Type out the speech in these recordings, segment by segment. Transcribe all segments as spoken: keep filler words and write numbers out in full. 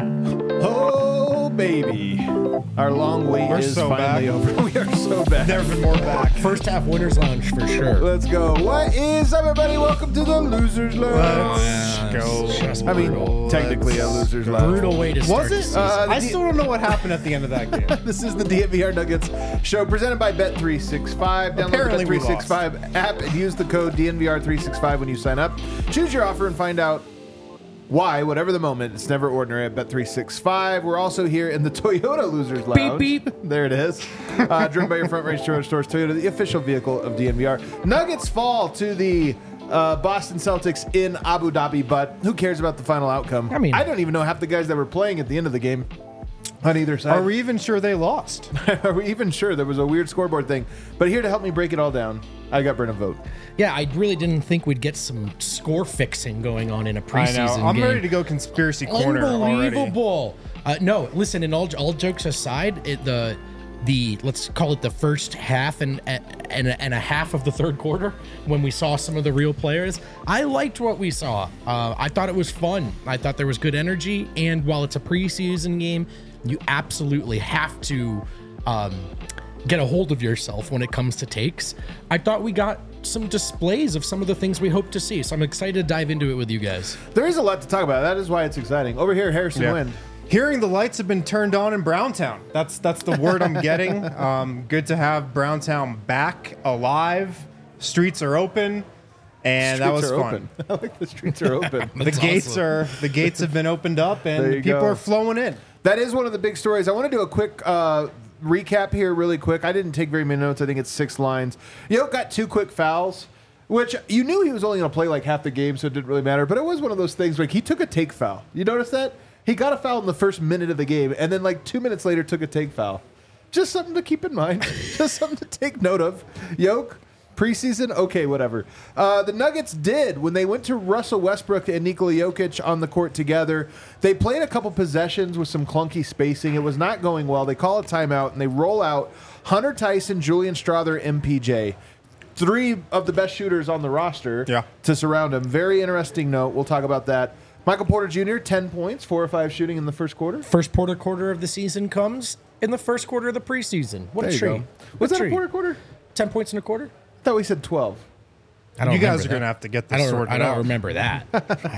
Oh, baby. Our long wait We're is so finally back. over. We are so back. Never been more back. First half winners lounge for sure. Let's go. What is up, everybody? Welcome to the Losers Lounge. Let's go. Just I mean, brutal. technically a Losers Lounge. Brutal way to start Was the it? season. Uh, I the- still don't know what happened at the end of that game. This is the D N V R Nuggets show presented by Bet three sixty-five. Download Apparently the we Bet three sixty-five app and use the code D N V R three sixty-five when you sign up. Choose your offer and find out why, whatever the moment, it's never ordinary at Bet three sixty-five. We're also here in the Toyota Losers Lounge. Beep, beep. There it is. Uh, driven by your Front Range Toyota Stores. Toyota, the official vehicle of D N V R. Nuggets fall to the uh, Boston Celtics in Abu Dhabi, but who cares about the final outcome? I mean- I don't even know half the guys that were playing at the end of the game on either side. Are we even sure they lost? Are we even sure? There was a weird scoreboard thing. But here to help me break it all down, I got Brennan Vogt. Yeah, I really didn't think we'd get some score fixing going on in a I preseason know. I'm game. ready to go conspiracy corner already. Unbelievable. Uh, no, listen. And all all jokes aside, it, the the let's call it the first half and and and a half of the third quarter when we saw some of the real players, I liked what we saw. Uh, I thought it was fun. I thought there was good energy. And while it's a preseason game, you absolutely have to um, get a hold of yourself when it comes to takes. I thought we got some displays of some of the things we hope to see. So I'm excited to dive into it with you guys. There is a lot to talk about. That is why it's exciting. Over here, Harrison Yeah. Wind. Hearing the lights have been turned on in Browntown. That's that's the word I'm getting. Um, good to have Browntown back, alive. Streets are open, and that was Streets are fun. open. I like the streets are open. The That's gates awesome. are the gates have been opened up, There and you people go. are flowing in. That is one of the big stories. I want to do a quick uh, recap here really quick. I didn't take very many notes. I think it's six lines. Yoke got two quick fouls, which you knew he was only going to play like half the game, so it didn't really matter. But it was one of those things like he took a take foul. You notice that? He got a foul in the first minute of the game, and then like two minutes later took a take foul. Just something to keep in mind. Just something to take note of. Yoke, preseason, okay, whatever. Uh, the Nuggets did when they went to Russell Westbrook and Nikola Jokic on the court together. They played a couple possessions with some clunky spacing. It was not going well. They call a timeout and they roll out Hunter Tyson, Julian Strawther, M P J. Three of the best shooters on the roster Yeah. to surround him. Very interesting note. We'll talk about that. Michael Porter Junior, ten points, four or five shooting in the first quarter. First Porter quarter of the season comes in the first quarter of the preseason. What There a you treat. go. What Was that treat. a Porter quarter? ten points in a quarter? I thought we said twelve. I don't You guys remember are going to that. have to get I this don't, sorted I don't out. remember that.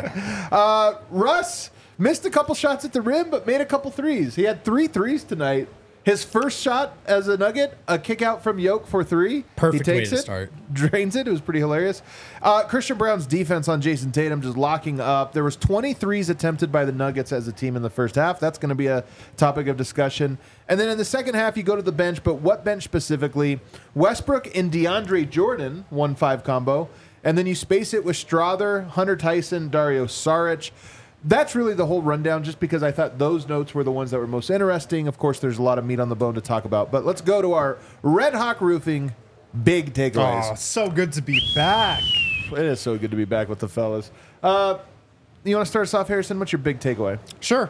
Russ missed a couple shots at the rim, but made a couple threes. He had three threes tonight. His first shot as a Nugget, a kick out from Yoke for three. Perfect he way takes to it, start. drains it. It was pretty hilarious. Uh, Christian Brown's defense on Jason Tatum just locking up. There was twenty threes attempted by the Nuggets as a team in the first half. That's going to be a topic of discussion. And then in the second half, you go to the bench, but what bench specifically? Westbrook and DeAndre Jordan, one five combo. And then you space it with Strawther, Hunter Tyson, Dario Saric. That's really the whole rundown, just because I thought those notes were the ones that were most interesting. Of course, there's a lot of meat on the bone to talk about. But let's go to our Red Hawk Roofing big takeaways. Oh, so good to be back. It is so good to be back with the fellas. Uh, you want to start us off, Harrison? What's your big takeaway? Sure.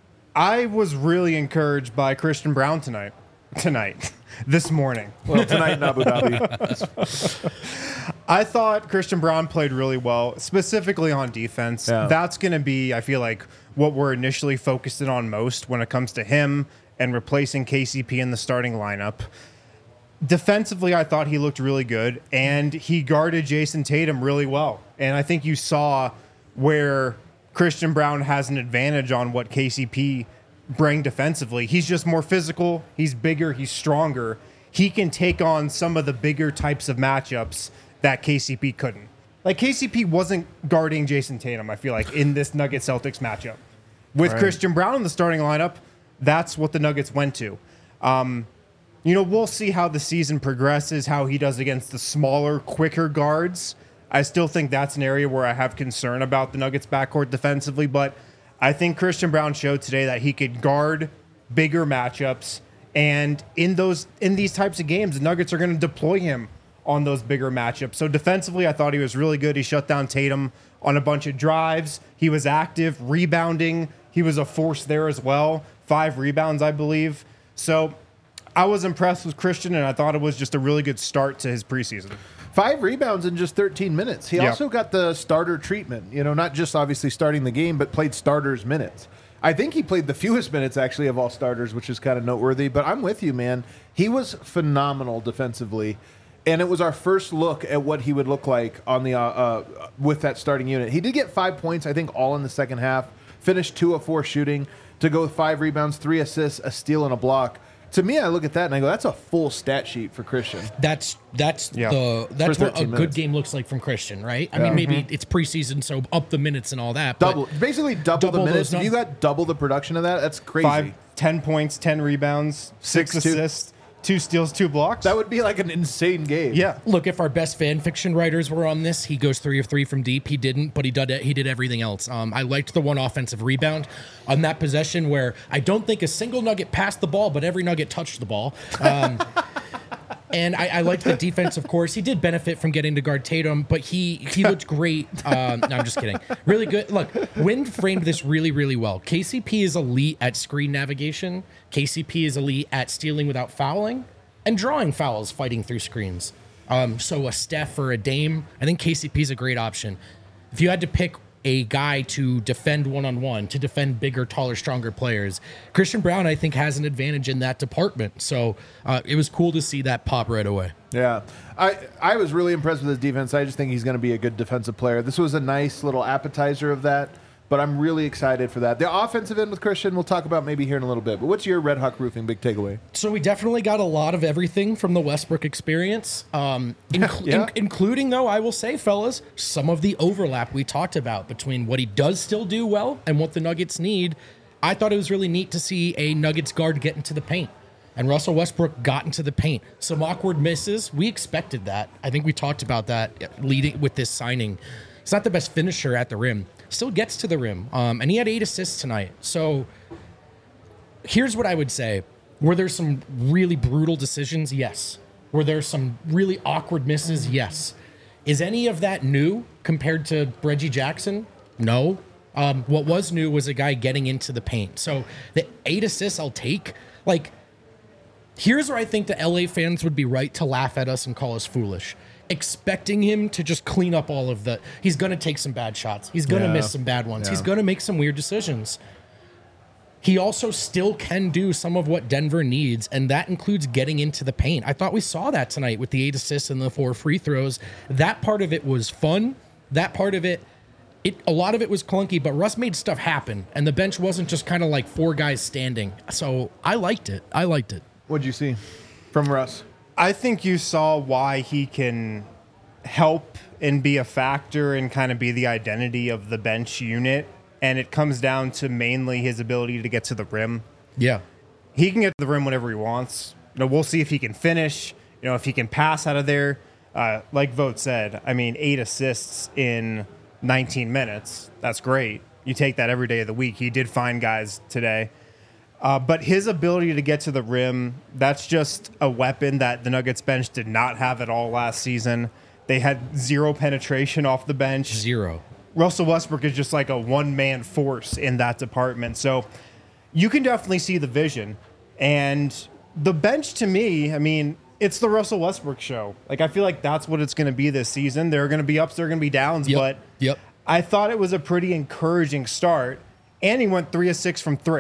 I was really encouraged by Christian Brown tonight. Tonight. This morning. Well, tonight in Abu Dhabi. I thought Christian Brown played really well, specifically on defense. Yeah. That's going to be, I feel like, what we're initially focused in on most when it comes to him and replacing K C P in the starting lineup. Defensively, I thought he looked really good, and he guarded Jason Tatum really well. And I think you saw where Christian Brown has an advantage on what K C P bring defensively. He's just more physical. He's bigger. He's stronger. He can take on some of the bigger types of matchups that K C P couldn't. Like, K C P wasn't guarding Jason Tatum, I feel like, in this Nuggets-Celtics matchup. With Right. Christian Brown in the starting lineup, that's what the Nuggets went to. Um, you know, we'll see how the season progresses, how he does against the smaller, quicker guards. I still think that's an area where I have concern about the Nuggets backcourt defensively, but I think Christian Brown showed today that he could guard bigger matchups, and in those in these types of games, the Nuggets are going to deploy him on those bigger matchups. So defensively, I thought he was really good. He shut down Tatum on a bunch of drives. He was active, rebounding. He was a force there as well. Five rebounds, I believe. So I was impressed with Christian, and I thought it was just a really good start to his preseason. Five rebounds in just thirteen minutes. He Yeah. also got the starter treatment, you know, not just obviously starting the game, but played starters minutes. I think he played the fewest minutes, actually, of all starters, which is kind of noteworthy. But I'm with you, man. He was phenomenal defensively. And it was our first look at what he would look like on the uh, uh, with that starting unit. He did get five points, I think, all in the second half. Finished two of four shooting to go with five rebounds, three assists, a steal, and a block. To me, I look at that and I go, that's a full stat sheet for Christian. That's that's Yeah. the that's what a thirteen good minutes. game looks like from Christian, right? I Yeah. mean, maybe it's preseason, so up the minutes and all that. but Double, basically double, double the minutes. those If you got double the production of that, that's crazy. Five, ten points, ten rebounds, six, Six, two- assists, two steals, two blocks. That would be like an insane game. yeah. Look, if our best fan fiction writers were on this, he goes three of three from deep. He didn't, but he did he did everything else. Um, I liked the one offensive rebound on that possession where I don't think a single Nugget passed the ball, but every Nugget touched the ball. Um, and I, I liked the defense, of course. He did benefit from getting to guard Tatum, but he he looked great. Um, no, I'm just kidding. Really good. Look, Wind framed this really, really well. K C P is elite at screen navigation. K C P is elite at stealing without fouling and drawing fouls, fighting through screens. Um, so a Steph or a Dame, I think K C P is a great option. If you had to pick a guy to defend one-on-one, to defend bigger, taller, stronger players, Christian Braun, I think, has an advantage in that department. So uh, it was cool to see that pop right away. Yeah. I, I was really impressed with his defense. I just think he's going to be a good defensive player. This was a nice little appetizer of that, but I'm really excited for that. The offensive end with Christian, we'll talk about maybe here in a little bit. But what's your Red Hawk Roofing big takeaway? So we definitely got a lot of everything from the Westbrook experience, um, inc- Yeah. in- including, though, I will say, fellas, some of the overlap we talked about between what he does still do well and what the Nuggets need. I thought it was really neat to see a Nuggets guard get into the paint. And Russell Westbrook got into the paint. Some awkward misses. We expected that. I think we talked about that leading with this signing. He's not the best finisher at the rim. Still gets to the rim. Um, and he had eight assists tonight. So here's what I would say. Were there some really brutal decisions? Yes. Were there some really awkward misses? Yes. Is any of that new compared to Reggie Jackson? No. Um, what was new was a guy getting into the paint. So the eight assists I'll take. Like, here's where I think the L A fans would be right to laugh at us and call us foolish. Expecting him to just clean up all of the... He's going to take some bad shots. He's going to Yeah. miss some bad ones. Yeah. He's going to make some weird decisions. He also still can do some of what Denver needs, and that includes getting into the paint. I thought we saw that tonight with the eight assists and the four free throws. That part of it was fun. That part of it, it a lot of it was clunky, but Russ made stuff happen, and the bench wasn't just kind of like four guys standing. So I liked it. I liked it. What'd you see from Russ? I think you saw why he can help and be a factor and kind of be the identity of the bench unit. And it comes down to mainly his ability to get to the rim. Yeah. He can get to the rim whenever he wants. You know, we'll see if he can finish, you know, if he can pass out of there. Uh, like Vogt said, I mean, eight assists in nineteen minutes. That's great. You take that every day of the week. He did find guys today. Uh, but his ability to get to the rim, that's just a weapon that the Nuggets bench did not have at all last season. They had zero penetration off the bench. Zero. Russell Westbrook is just like a one-man force in that department. So you can definitely see the vision. And the bench, to me, I mean, it's the Russell Westbrook show. Like, I feel like that's what it's going to be this season. There are going to be ups, there are going to be downs. Yep. But Yep. I thought it was a pretty encouraging start. And he went three of six from three.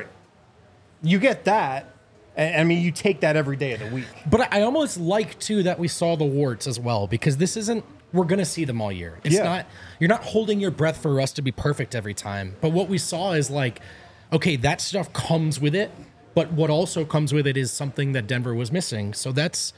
You get that. I mean, you take that every day of the week. But I almost like, too, that we saw the warts as well, because this isn't, we're going to see them all year. It's Yeah. not, you're not holding your breath for Russ to be perfect every time. But what we saw is like, okay, that stuff comes with it, but what also comes with it is something that Denver was missing. So that's,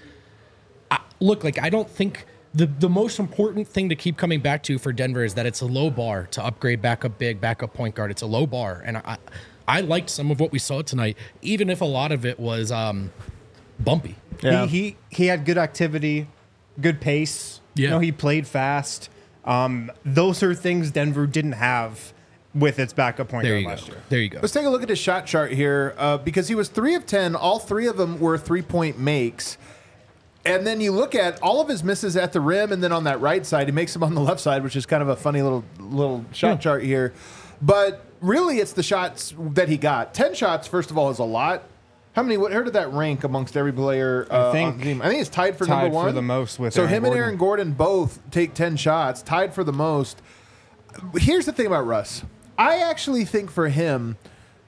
I, look, like, I don't think the, the most important thing to keep coming back to for Denver is that it's a low bar to upgrade backup big, backup point guard. It's a low bar. And I, I liked some of what we saw tonight, even if a lot of it was um, bumpy. Yeah. He, he he had good activity, good pace. Yeah. You know, he played fast. Um, those are things Denver didn't have with its backup point There guard you go. last year. There you go. Let's take a look at his shot chart here uh, because he was three of ten. All three of them were three-point makes. And then you look at all of his misses at the rim, and then on that right side, he makes them on the left side, which is kind of a funny little little shot Yeah. chart here. But really, it's the shots that he got. Ten shots, first of all, is a lot. How many? What? Where did that rank amongst every player uh, I think on the team? I think it's tied for tied number one for the most with so Aaron him and Gordon. Aaron Gordon both take ten shots, tied for the most. Here's the thing about Russ. I actually think for him,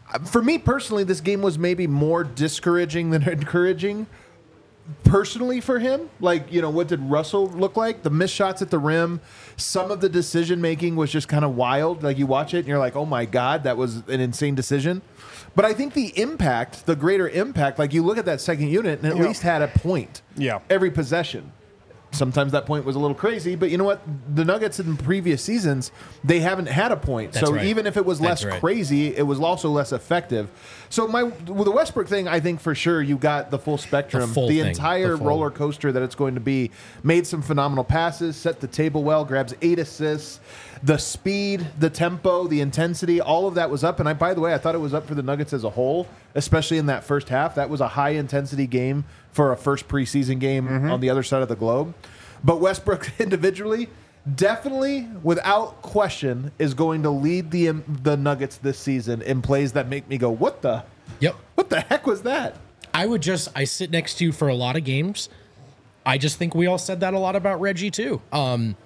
For me personally, this game was maybe more discouraging than encouraging. Personally for him, like, you know, what did Russell look like? The missed shots at the rim, some of the decision making was just kind of wild. Like, you watch it and you're like, oh my God, that was an insane decision. But I think the impact, the greater impact, like you look at that second unit and at Yeah. least had a point Yeah. every possession. Sometimes that point was a little crazy, but you know what? The Nuggets in previous seasons, they haven't had a point. That's so right. even if it was less That's right. crazy, it was also less effective. So my with the Westbrook thing, I think for sure you got the full spectrum, The full the thing. entire The full- roller coaster that it's going to be. Made some phenomenal passes, set the table well, grabs eight assists. The speed, the tempo, the intensity, all of that was up. And I, by the way, I thought it was up for the Nuggets as a whole, especially in that first half. That was a high intensity game for a first preseason game Mm-hmm. on the other side of the globe. But Westbrook individually, definitely, without question, is going to lead the the Nuggets this season in plays that make me go, "What the? Yep. What the heck was that?" I would just I sit next to you for a lot of games. I just think we all said that a lot about Reggie too. Um,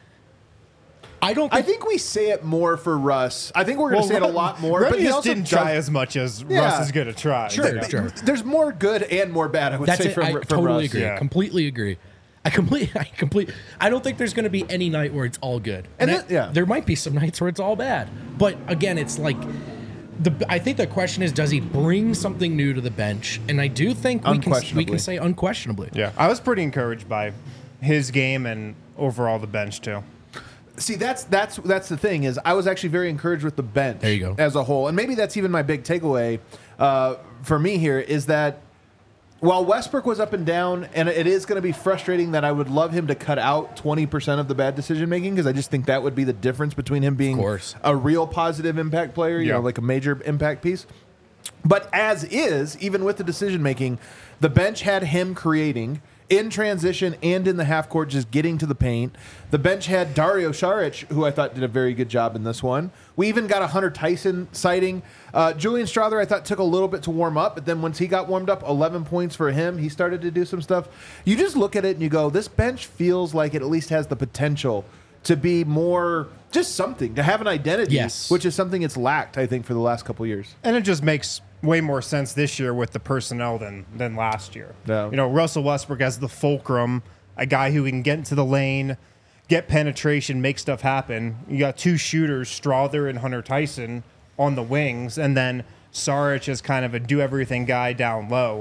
I don't. I Think, think we say it more for Russ. I think we're going to say it a lot more. Reggie but he just also didn't does- try as much as Yeah. Russ is going to try. Sure, you know? Sure. There's more good and more bad. I would that's say it. from, I from totally Russ. agree. Yeah. Completely agree. I complete. I complete. I don't think there's going to be any night where it's all good. And I- that- yeah. there might be some nights where it's all bad. But again, it's like the. I think the question is, does he bring something new to the bench? And I do think we can we Unquestionably. can say unquestionably. Yeah, I was pretty encouraged by his game and overall the bench too. See, that's that's that's the thing is I was actually very encouraged with the bench There you go. as a whole, and maybe that's even my big takeaway uh, for me here is that while Westbrook was up and down, and it is going to be frustrating that I would love him to cut out twenty percent of the bad decision making because I just think that would be the difference between him being course. a real positive impact player, you Yeah. know, like a major impact piece. But as is, even with the decision making, the bench had him creating in transition and in the half court, just getting to the paint. The bench had Dario Saric, who I thought did a very good job in this one. We even got a Hunter Tyson sighting. Uh, Julian Strawther, I thought, took a little bit to warm up, but then once he got warmed up, eleven points for him. He started to do some stuff. You just look at it and you go, this bench feels like it at least has the potential to be more just something, to have an identity, Yes. which is something it's lacked, I think, for the last couple years. And it just makes way more sense this year with the personnel than than last year. Yeah. You know, Russell Westbrook as the fulcrum, a guy who can get into the lane, get penetration, make stuff happen. You got two shooters, Strawther and Hunter Tyson, on the wings, and then Saric is kind of a do-everything guy down low.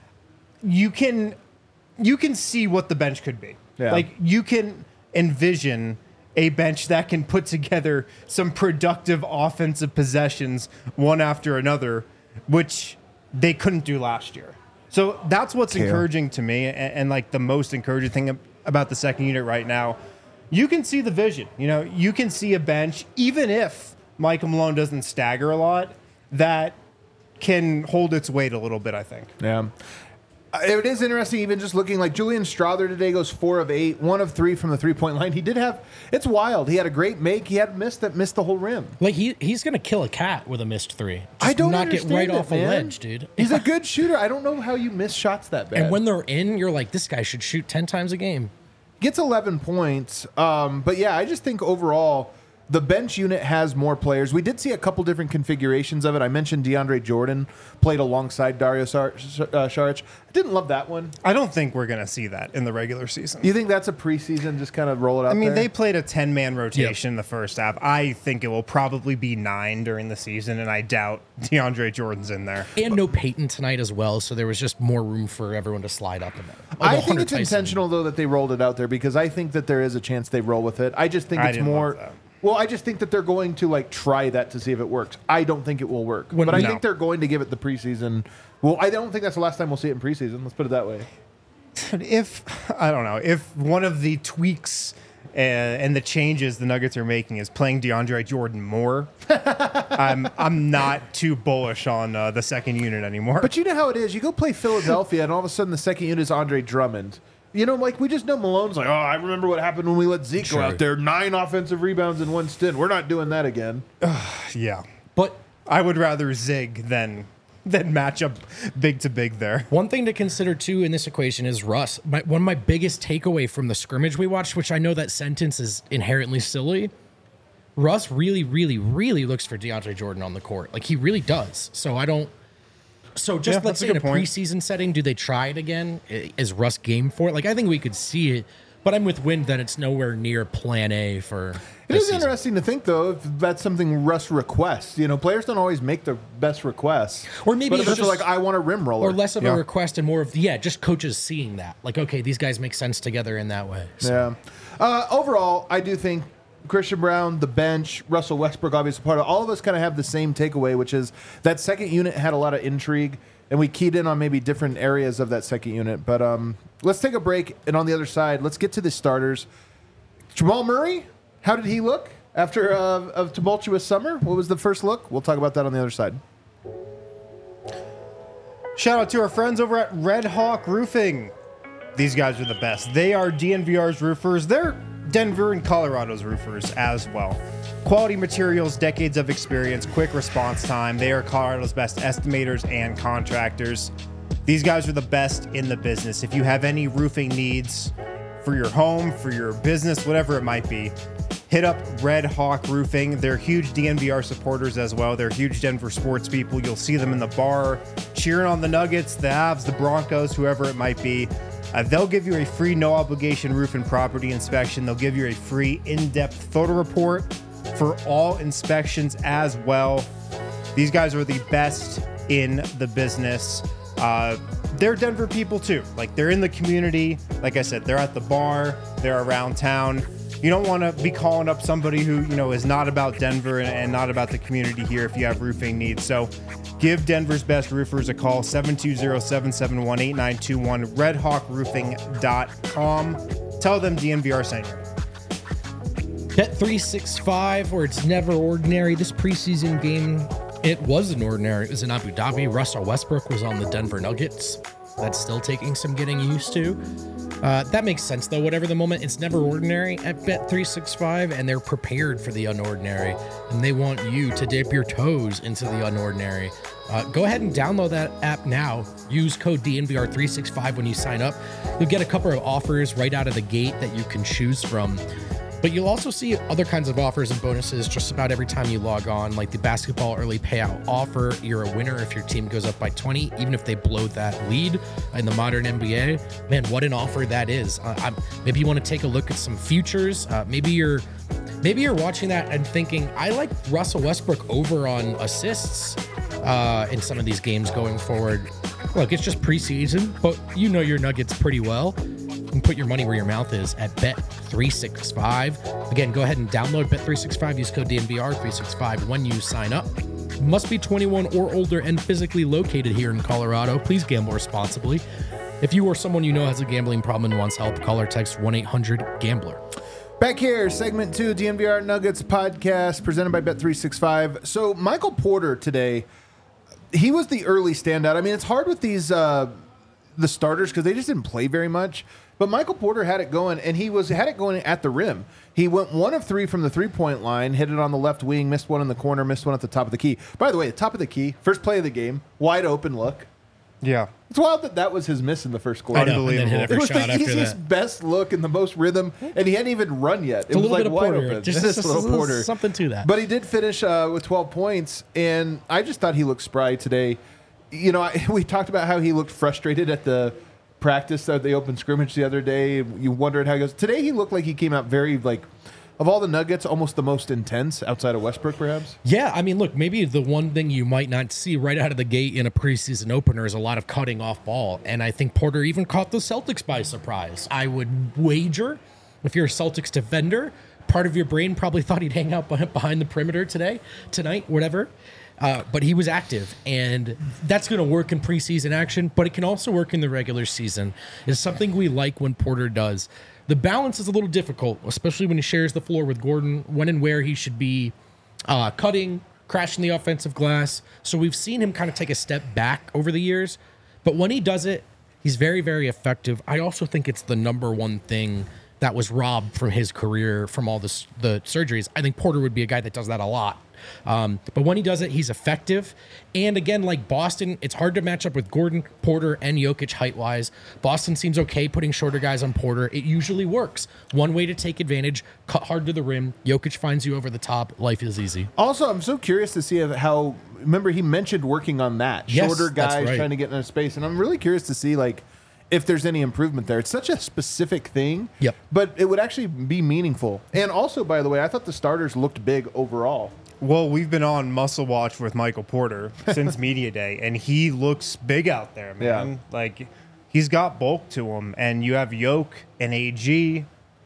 You can you can see what the bench could be. Yeah. Like you can envision a bench that can put together some productive offensive possessions one after another, which they couldn't do last year. So that's what's Kale. encouraging to me, and, and like the most encouraging thing ab- about the second unit right now. You can see the vision. You know, you can see a bench, even if Michael Malone doesn't stagger a lot, that can hold its weight a little bit, I think. Yeah. Uh, It is interesting, even just looking like Julian Strawther today goes four of eight, one of three from the three point line. He did have, it's wild. He had a great make. He had a miss that missed the whole rim. Like he he's gonna kill a cat with a missed three. Just I don't not get understand right it, off man. a ledge, dude. He's a good shooter. I don't know how you miss shots that bad. And when they're in, you're like, this guy should shoot ten times a game. Gets eleven points. Um, but yeah, I just think overall the bench unit has more players. We did see a couple different configurations of it. I mentioned DeAndre Jordan played alongside Dario Sar- uh, Saric. I didn't love that one. I don't think we're going to see that in the regular season. You think that's a preseason, just kind of roll it out I mean, there? they played a ten-man rotation in the first half. I think it will probably be nine during the season, and I doubt DeAndre Jordan's in there. And no Peyton tonight as well, so there was just more room for everyone to slide up in there. I Although think Hunter it's Tyson- intentional, though, that they rolled it out there because I think that there is a chance they roll with it. I just think I it's didn't more. love that. Well, I just think that they're going to like try that to see if it works. I don't think it will work, When- but I no. think they're going to give it the preseason. Well, I don't think that's the last time we'll see it in preseason. Let's put it that way. If I don't know if one of the tweaks uh, and the changes the Nuggets are making is playing DeAndre Jordan more, I'm I'm not too bullish on uh, the second unit anymore. But you know how it is. You go play Philadelphia, and all of a sudden the second unit is Andre Drummond. You know, like we just know Malone's like, oh, I remember what happened when we let Zeke Sure. go out there. Nine offensive rebounds in one stint. We're not doing that again. yeah, But I would rather zig than than match up big to big there. one thing to consider too in this equation is Russ. My, one of my biggest takeaway from the scrimmage we watched, which I know that sentence is inherently silly, Russ really, really, really looks for DeAndre Jordan on the court. Like, he really does. So I don't. So just Yeah, let's that's a say in a good point. preseason setting, do they try it again? I- Is Russ game for it? Like, I think we could see it, but I'm with Wind that it's nowhere near Plan A for. It this is season. interesting to think, though, if that's something Russ requests. You know, players don't always make their best requests. Or maybe but it's if it's just- like, I want a rim roller. Or less of Yeah. a request and more of, yeah, just coaches seeing that. Like, okay, these guys make sense together in that way. So. Yeah. Uh, overall, I do think Christian Brown, the bench, Russell Westbrook, obviously part of all of us kind of have the same takeaway, which is that second unit had a lot of intrigue, and we keyed in on maybe different areas of that second unit. But um, let's take a break, and on the other side, let's get to the starters. Jamal Murray, how did he look after uh, a tumultuous summer? What was the first look? We'll talk about that on the other side. Shout out to our friends over at Red Hawk Roofing. These guys are the best. They are D N V R's roofers. They're Denver and Colorado's roofers as well. Quality materials, decades of experience, quick response time. They are Colorado's best estimators and contractors. These guys are the best in the business. If you have any roofing needs for your home, for your business, whatever it might be, hit up Red Hawk Roofing. They're huge D N V R supporters as well. They're huge Denver sports people. You'll see them in the bar cheering on the Nuggets, the Avs, the Broncos, whoever it might be. Uh, they'll give you a free no obligation roof and property inspection. They'll give you a free in-depth photo report for all inspections as well. These guys are the best in the business. Uh, they're Denver people too. Like, they're in the community. Like I said, they're at the bar. They're around town. You don't want to be calling up somebody who, you know, is not about Denver and, and not about the community here if you have roofing needs. So give Denver's best roofers a call, seven two zero, seven seven one, eight nine two one, red hawk roofing dot com. Tell them D N V R sent you. Bet three sixty-five, where it's never ordinary. This preseason game, it wasn't ordinary. It was in Abu Dhabi. Russell Westbrook was on the Denver Nuggets. That's still taking some getting used to. Uh, that makes sense, though. Whatever the moment, it's never ordinary at Bet three sixty-five, and they're prepared for the unordinary, and they want you to dip your toes into the unordinary. Uh, go ahead and download that app now. Use code D N V R three sixty-five when you sign up. You'll get a couple of offers right out of the gate that you can choose from. But you'll also see other kinds of offers and bonuses just about every time you log on, like the basketball early payout offer. You're a winner if your team goes up by twenty, even if they blow that lead in the modern N B A. Man, what an offer that is. Uh, I'm, maybe you want to take a look at some futures. Uh, maybe you're maybe you're watching that and thinking, I like Russell Westbrook over on assists uh, in some of these games going forward. Look, it's just preseason, but you know your Nuggets pretty well. And put your money where your mouth is at Bet three sixty-five. Again, go ahead and download Bet three sixty-five. Use code D N V R three sixty-five when you sign up. Must be twenty-one or older and physically located here in Colorado. Please gamble responsibly. If you or someone you know has a gambling problem and wants help, call or text one eight hundred gambler. Back here, segment two, D N V R Nuggets podcast, presented by Bet three sixty-five. So Michael Porter today, he was the early standout. I mean, it's hard with these uh, the starters because they just didn't play very much. But Michael Porter had it going, and he was had it going at the rim. He went one of three from the three-point line, hit it on the left wing, missed one in the corner, missed one at the top of the key. By the way, the top of the key, first play of the game, wide open look. Yeah. It's wild that that was his miss in the first quarter. I know, and then hit Unbelievable. every It was shot the after easiest, that. best look and the most rhythm, and he hadn't even run yet. It a was little like bit of wide Porter. open. Just- Just just- a little just Porter. something to that. But he did finish uh, with twelve points, and I just thought he looked spry today. You know, I, we talked about how he looked frustrated at the practice at the open scrimmage the other day. You wondered how he goes. Today he looked like he came out very, like, of all the Nuggets, almost the most intense outside of Westbrook, perhaps. Yeah, I mean, look, maybe the one thing you might not see right out of the gate in a preseason opener is a lot of cutting off ball. And I think Porter even caught the Celtics by surprise. I would wager, if you're a Celtics defender, part of your brain probably thought he'd hang out behind the perimeter today, tonight, whatever. Uh, but he was active, and that's going to work in preseason action, but it can also work in the regular season. It's something we like when Porter does. The balance is a little difficult, especially when he shares the floor with Gordon, when and where he should be uh, cutting, crashing the offensive glass. So we've seen him kind of take a step back over the years, but when he does it, he's very, very effective. I also think it's the number one thing that was robbed from his career from all this, the surgeries. I think Porter would be a guy that does that a lot. Um, but when he does it, he's effective. And again, like Boston, it's hard to match up with Gordon, Porter, and Jokic height-wise. Boston seems okay putting shorter guys on Porter. It usually works. One way to take advantage, cut hard to the rim. Jokic finds you over the top. Life is easy. Also, I'm so curious to see how, remember he mentioned working on that. Yes, Shorter that's guys right. trying to get into space. And I'm really curious to see, like, if there's any improvement there. It's such a specific thing. Yep. But it would actually be meaningful. And also, by the way, I thought the starters looked big overall. Well, we've been on Muscle Watch with Michael Porter since Media Day, and he looks big out there, man. Yeah. Like, he's got bulk to him. And you have Yoke and A G,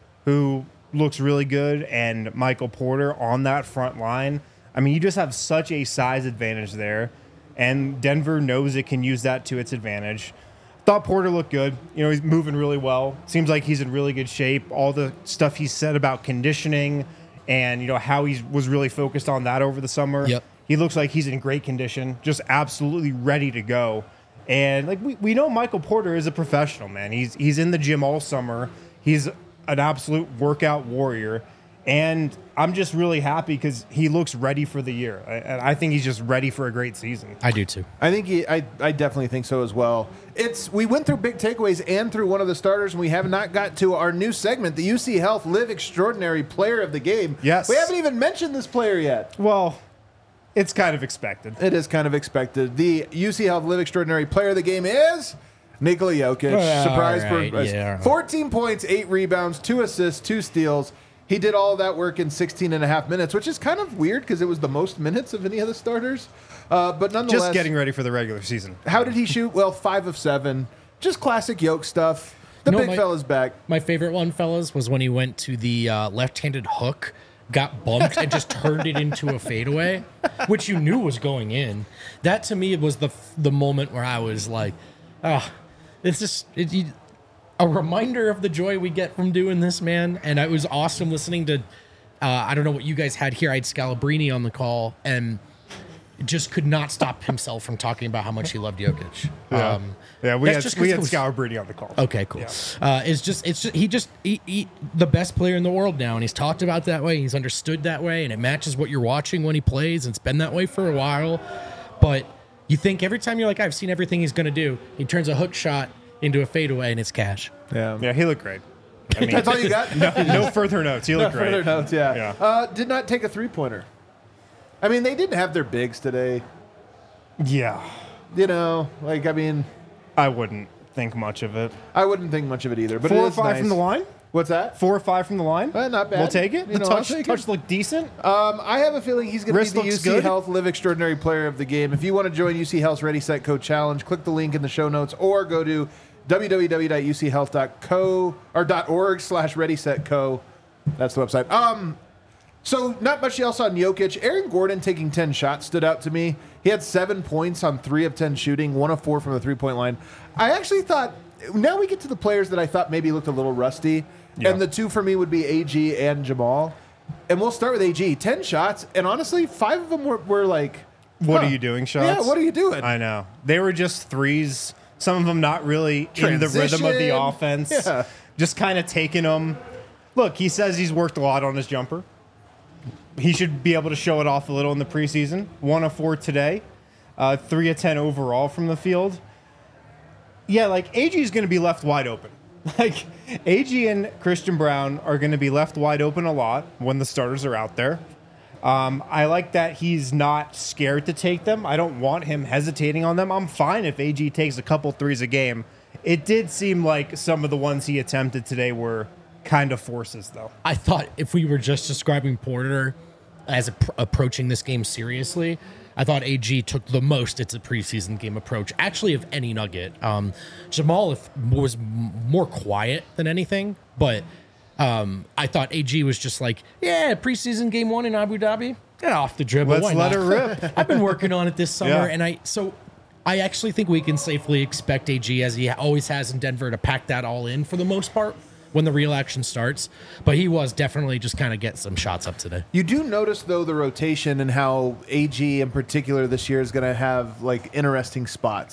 who looks really good, and Michael Porter on that front line. I mean, you just have such a size advantage there, and Denver knows it can use that to its advantage. Thought Porter looked good. You know, he's moving really well. Seems like he's in really good shape. All the stuff he said about conditioning and, you know, how he was really focused on that over the summer. Yep. He looks like he's in great condition, just absolutely ready to go. And, like, we, we know Michael Porter is a professional, man. He's, he's in the gym all summer. He's an absolute workout warrior. And I'm just really happy because he looks ready for the year. I, and I think he's just ready for a great season. I do too. I think he, I, I definitely think so as well. It's we went through big takeaways and through one of the starters, and we have not got to our new segment, the U C Health Live Extraordinary Player of the Game. Yes. We haven't even mentioned this player yet. Well, it's kind of expected. It is kind of expected. The U C Health Live Extraordinary Player of the Game is Nikola Jokic. Well, Surprise. all right, for, yeah. fourteen points, eight rebounds, two assists, two steals. He did all of that work in sixteen and a half minutes, which is kind of weird because it was the most minutes of any of the starters. Uh, but nonetheless, Just getting ready for the regular season. how did he shoot? Well, five of seven. Just classic Yoke stuff. The You know, big my- fella's back. My favorite one, fellas, was when he went to the uh, left-handed hook, got bumped, and just turned it into a fadeaway, which you knew was going in. That to me was the the moment where I was like, "Ah, it's just it, you, a reminder of the joy we get from doing this, man." And it was awesome listening to. Uh, I don't know what you guys had here. I had Scalabrini on the call, and just could not stop himself from talking about how much he loved Jokic. Yeah, Um, yeah we that's had just 'cause we it had was- Scalabrini on the call. Okay, cool. Yeah. Uh, it's just, it's just, he just, he, he, the best player in the world now, and he's talked about that way. He's understood that way, and it matches what you're watching when he plays. And it's been that way for a while. But you think every time you're like, I've seen everything he's going to do, he turns a hook shot into a fadeaway, and it's cash. Yeah. Yeah, he looked great. I mean, That's all you got? no, no further notes. He looked great. Further notes, yeah. Yeah. Uh, did not take a three-pointer. I mean, they didn't have their bigs today. Yeah, You know, like, I mean, I wouldn't think much of it. I wouldn't think much of it either. But Four it or is five nice. from the line. What's that? Four or five from the line. Uh, not bad. We'll take it. You The know, I'll touch, take it. touch looked decent. Um, I have a feeling he's going to be Wrist the looks U C good. Health Live Extraordinary Player of the Game. If you want to join U C Health's Ready, Set, Co Challenge, click the link in the show notes or go to w w w dot u c health dot co or .org slash Ready, Set, Co. That's the website. Um, so not much else on Jokic. Aaron Gordon taking ten shots stood out to me. He had seven points on three of ten shooting, one of four from the three-point line. I actually thought, now we get to the players that I thought maybe looked a little rusty. Yeah. And the two for me would be A G and Jamal. And we'll start with A G. ten shots, and honestly, five of them were, were like, What huh. are you doing, shots? Yeah, what are you doing? I know. They were just threes. Some of them not really in the rhythm of the Transition. offense. Yeah. Just kind of taking them. Look, he says he's worked a lot on his jumper. He should be able to show it off a little in the preseason. One of four today. Uh, three of ten overall from the field. Yeah, like A G is going to be left wide open. Like A G and Christian Brown are going to be left wide open a lot when the starters are out there. Um, I like that he's not scared to take them. I don't want him hesitating on them. I'm fine if A G takes a couple threes a game. It did seem like some of the ones he attempted today were kind of forces, though. I thought if we were just describing Porter as a, approaching this game seriously, I thought A G took the most it's a preseason game approach, actually, of any Nugget. Um, Jamal if, was m- more quiet than anything, but um, I thought A G was just like, yeah, preseason game one in Abu Dhabi, get off the dribble. Let's Why let not? it rip. I've been working on it this summer, Yeah. and I so I actually think we can safely expect A G, as he always has in Denver, to pack that all in for the most part when the real action starts. But he was definitely just kind of get some shots up today. You do notice, though, the rotation and how A G in particular this year is going to have, like, interesting spots.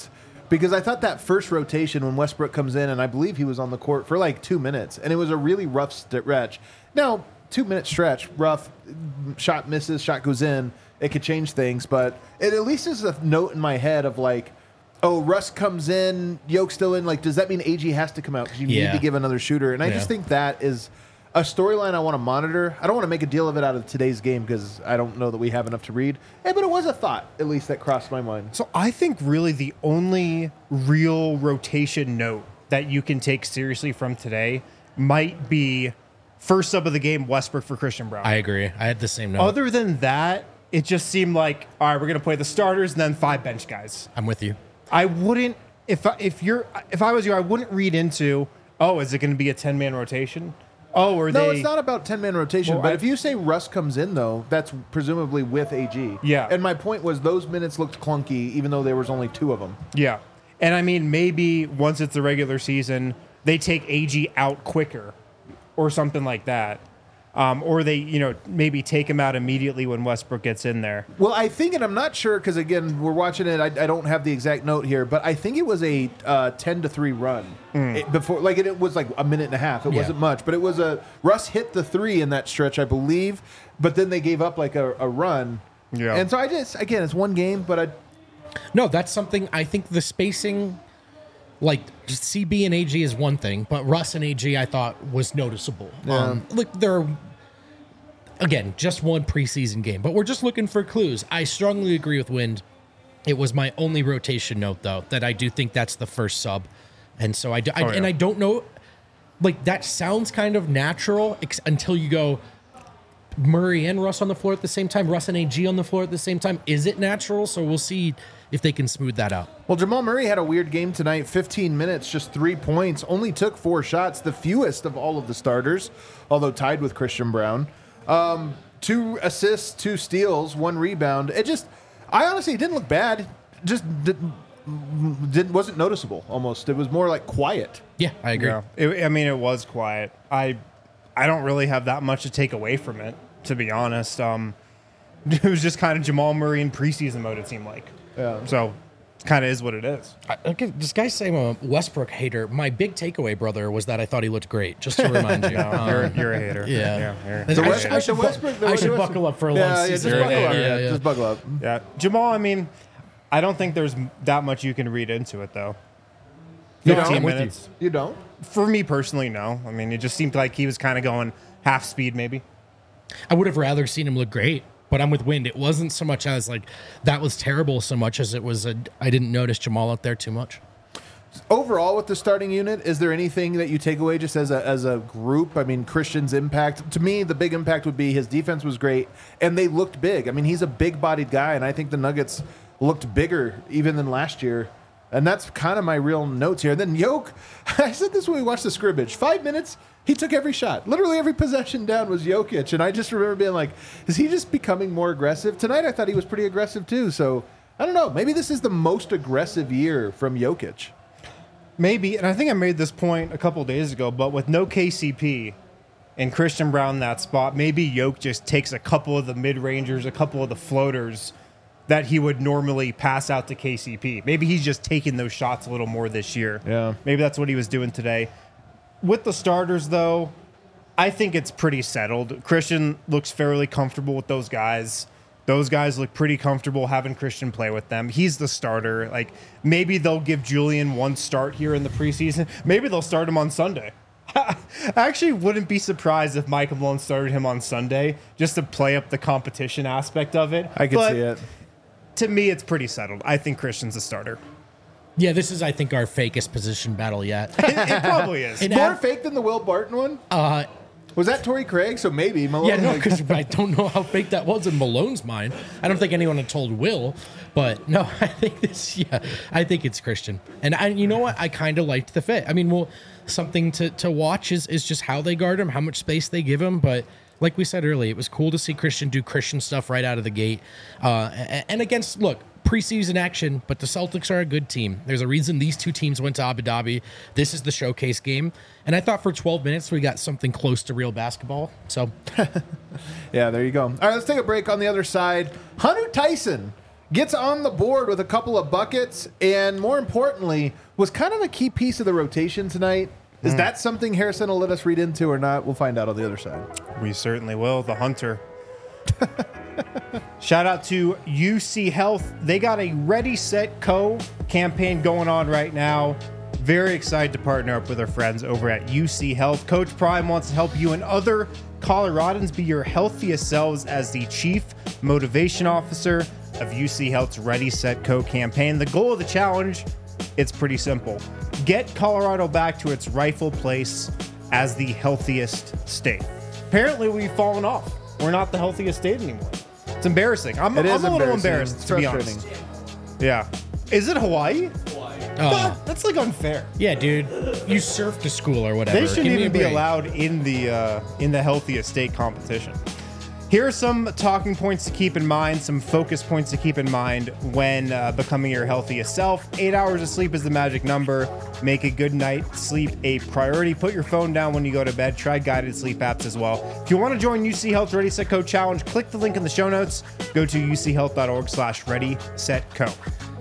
because I thought that first rotation when Westbrook comes in, and I believe he was on the court for like two minutes, and it was a really rough stretch. Now, two minute stretch, rough, shot misses, shot goes in. It could change things, but it at least is a note in my head of like, oh, Russ comes in, Yoke's still in. Like, does that mean A G has to come out because you Yeah. need to give another shooter? And I Yeah. just think that is a storyline I want to monitor. I don't want to make a deal of it out of today's game because I don't know that we have enough to read. Hey, but it was a thought, at least, that crossed my mind. So I think really the only real rotation note that you can take seriously from today might be first sub of the game, Westbrook for Christian Brown. I agree. I had the same note. Other than that, it just seemed like, all right, we're going to play the starters and then five bench guys. I'm with you. I wouldn't, if I, if you're, if I was you, I wouldn't read into, oh, is it going to be a ten man rotation? Oh, are No, they? it's not about ten-man rotation. Well, but I- if you say Russ comes in, though, that's presumably with A G. Yeah. And my point was those minutes looked clunky, even though there was only two of them. Yeah. And I mean, maybe once it's the regular season, they take A G out quicker or something like that. Um, or they, you know, maybe take him out immediately when Westbrook gets in there. Well, I think, and I'm not sure because again, we're watching it. I, I don't have the exact note here, but I think it was a uh, ten to three run it, before. Like it, it was like a minute and a half. It Yeah. wasn't much, but it was a Russ hit the three in that stretch, I believe. But then they gave up like a, a run. Yeah. And so I just again, it's one game, but I. No, that's something I think the spacing, like just C B and A G is one thing, but Russ and A G I thought was noticeable. Um, look, they're, again, just one preseason game, but we're just looking for clues. I strongly agree with Wind. It was my only rotation note, though, that I do think that's the first sub. And so I, do, I Oh, yeah. and I don't know, like that sounds kind of natural ex- until you go Murray and Russ on the floor at the same time, Russ and A G on the floor at the same time. Is it natural? So we'll see if they can smooth that out. Well, Jamal Murray had a weird game tonight. fifteen minutes, just three points. Only took four shots, the fewest of all of the starters, although tied with Christian Brown. Um, two assists, two steals, one rebound. It just, I honestly, it didn't look bad. Just didn't, didn't wasn't noticeable. Almost, it was more like quiet. Yeah, I agree. Yeah. It, I mean, it was quiet. I, I don't really have that much to take away from it, to be honest. Um, it was just kind of Jamal Murray in preseason mode, it seemed like. Yeah. So, kind of is what it is. I, okay, this guy's saying I'm a Westbrook hater. My big takeaway, brother, was that I thought he looked great. Just to remind you. No, Um, you're, you're a hater. yeah. you're- I, The should- Westbrook- I should, the bu- Westbrook- the I should Westbrook- buckle up for a Yeah, long yeah, just season. buckle up. Yeah, Yeah, yeah. Just buckle up. Yeah, Jamal. I mean, I don't think there's that much you can read into it, though. You fifteen don't? minutes. You don't? For me personally, no. I mean, it just seemed like he was kind of going half speed, maybe. I would have rather seen him look great, but I'm with Wind. It wasn't so much as like that was terrible so much as it was a, I didn't notice Jamal out there too much. Overall, with the starting unit, is there anything that you take away just as a as a group? I mean, Christian's impact. To me, the big impact would be his defense was great, and they looked big. I mean, he's a big-bodied guy, and I think the Nuggets looked bigger even than last year. And that's kind of my real notes here. And then Yoke, I said this when we watched the scrimmage. Five minutes, he took every shot. Literally every possession down was Jokic. And I just remember being like, is he just becoming more aggressive? Tonight I thought he was pretty aggressive too. So I don't know. Maybe this is the most aggressive year from Jokic. Maybe, and I think I made this point a couple days ago, but with no K C P and Christian Brown in that spot, maybe Yoke just takes a couple of the mid-rangers, a couple of the floaters that he would normally pass out to K C P. Maybe he's just taking those shots a little more this year. Yeah. Maybe that's what he was doing today. With the starters, though, I think it's pretty settled. Christian looks fairly comfortable with those guys. Those guys look pretty comfortable having Christian play with them. He's the starter. Like, maybe they'll give Julian one start here in the preseason. Maybe they'll start him on Sunday. I actually wouldn't be surprised if Mike Malone started him on Sunday just to play up the competition aspect of it. I could But see it. to me, it's pretty settled. I think Christian's a starter. Yeah, this is I think our fakest position battle yet. It, it probably is. And More Ab- fake than the Will Barton one? uh, Was that Torrey Craig? So maybe Malone. yeah, no, like- because I don't know how fake that was in Malone's mind. I don't think anyone had told Will, but no, I think this. Yeah, I think it's Christian, and I, you know what? I kind of liked the fit. I mean, well, something to to watch is is just how they guard him, how much space they give him, but. Like we said earlier, it was cool to see Christian do Christian stuff right out of the gate. Uh, and, and against, look, preseason action, but the Celtics are a good team. There's a reason these two teams went to Abu Dhabi. This is the showcase game. And I thought for twelve minutes we got something close to real basketball. So, Yeah, there you go. All right, let's take a break on the other side. Hunter Tyson gets on the board with a couple of buckets, and more importantly, was kind of a key piece of the rotation tonight. Is mm. that something Harrison will let us read into or not? We'll find out on the other side. We certainly will. The Hunter. Shout out to U C Health. They got a Ready, Set, Co campaign going on right now. Very excited to partner up with our friends over at U C Health. Coach Prime wants to help you and other Coloradans be your healthiest selves as the Chief Motivation Officer of U C Health's Ready, Set, Co campaign. The goal of the challenge, it's pretty simple. Get Colorado back to its rightful place as the healthiest state. Apparently, we've fallen off. We're not the healthiest state anymore. It's embarrassing. I'm, it I'm is a little embarrassing. embarrassed, to be honest. Yeah. Is it Hawaii? Oh. God, that's like unfair. Yeah, dude. You surf to school or whatever. They shouldn't Give me even a be break. allowed in the uh, in the healthiest state competition. Here are some talking points to keep in mind, some focus points to keep in mind when uh, becoming your healthiest self. Eight hours of sleep is the magic number. Make a good night sleep a priority. Put your phone down when you go to bed. Try guided sleep apps as well. If you want to join U C Health Ready, Set, Co Challenge, click the link in the show notes. Go to uchealth.org slash ready, set, co.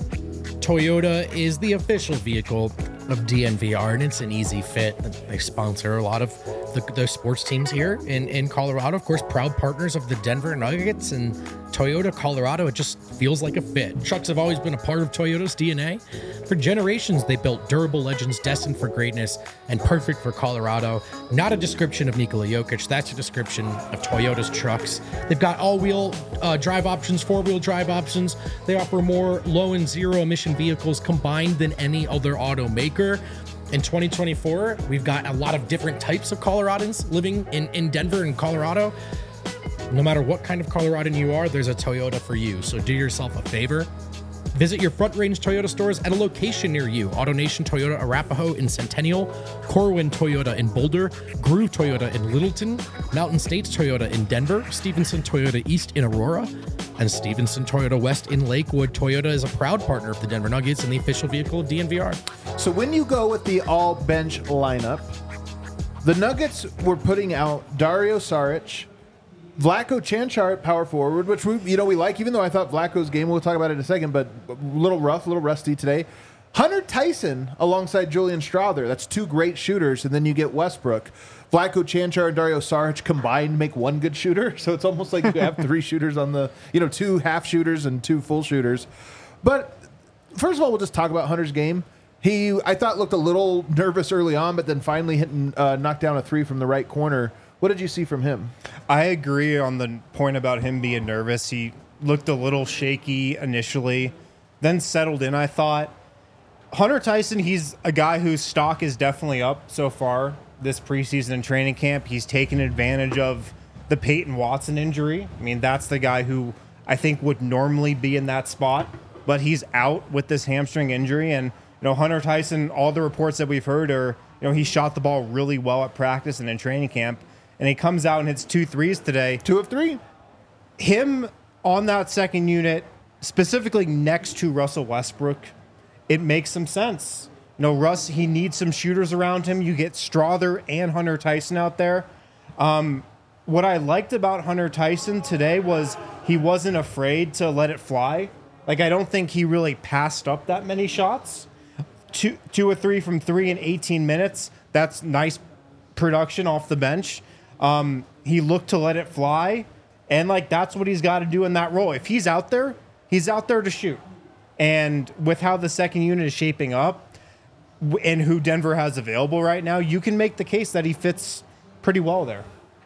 Toyota is the official vehicle of D N V R, and it's an easy fit. They sponsor a lot of the, the sports teams here in, in Colorado. Of course, proud partners of the Denver Nuggets and Toyota Colorado. It just feels like a fit. Trucks have always been a part of Toyota's D N A. For generations, they built durable legends destined for greatness and perfect for Colorado. Not a description of Nikola Jokic. That's a description of Toyota's trucks. They've got all-wheel uh, drive options, four-wheel drive options. They offer more low and zero-emission vehicles combined than any other automaker. In twenty twenty-four, we've got a lot of different types of Coloradans living in, in Denver and Colorado. No matter what kind of Coloradan you are, there's a Toyota for you. So do yourself a favor. Visit your Front Range Toyota stores at a location near you. AutoNation Toyota Arapahoe in Centennial, Corwin Toyota in Boulder, Groove Toyota in Littleton, Mountain States Toyota in Denver, Stevenson Toyota East in Aurora, and Stevenson Toyota West in Lakewood. Toyota is a proud partner of the Denver Nuggets and the official vehicle of D N V R. So when you go with the all-bench lineup, the Nuggets were putting out Dario Saric, Vlatko Cancar at power forward, which we, you know, we like, even though I thought Vlatko's game, we'll talk about it in a second, but a little rough, a little rusty today. Hunter Tyson alongside Julian Strawther. That's two great shooters, and then you get Westbrook. Vlatko Cancar and Dario Saric combined make one good shooter, so it's almost like you have three shooters on the, you know, two half shooters and two full shooters. But first of all, we'll just talk about Hunter's game. He, I thought, looked a little nervous early on, but then finally hitting, uh, knocked down a three from the right corner. What did you see from him? I agree on the point about him being nervous. He looked a little shaky initially, then settled in, I thought. Hunter Tyson, he's a guy whose stock is definitely up so far this preseason and training camp. He's taken advantage of the Peyton Watson injury. I mean, that's the guy who I think would normally be in that spot, but he's out with this hamstring injury. And, you know, Hunter Tyson, all the reports that we've heard are, you know, he shot the ball really well at practice and in training camp. And he comes out and hits two threes today. Two of three. Him on that second unit, specifically next to Russell Westbrook, it makes some sense. You know, Russ, he needs some shooters around him. You get Strawther and Hunter Tyson out there. Um, what I liked about Hunter Tyson today was he wasn't afraid to let it fly. Like, I don't think he really passed up that many shots. Two, two or three from three in eighteen minutes. That's nice production off the bench. Um, he looked to let it fly, and like that's what he's got to do in that role. If he's out there, he's out there to shoot. And with how the second unit is shaping up and who Denver has available right now, you can make the case that he fits pretty well there.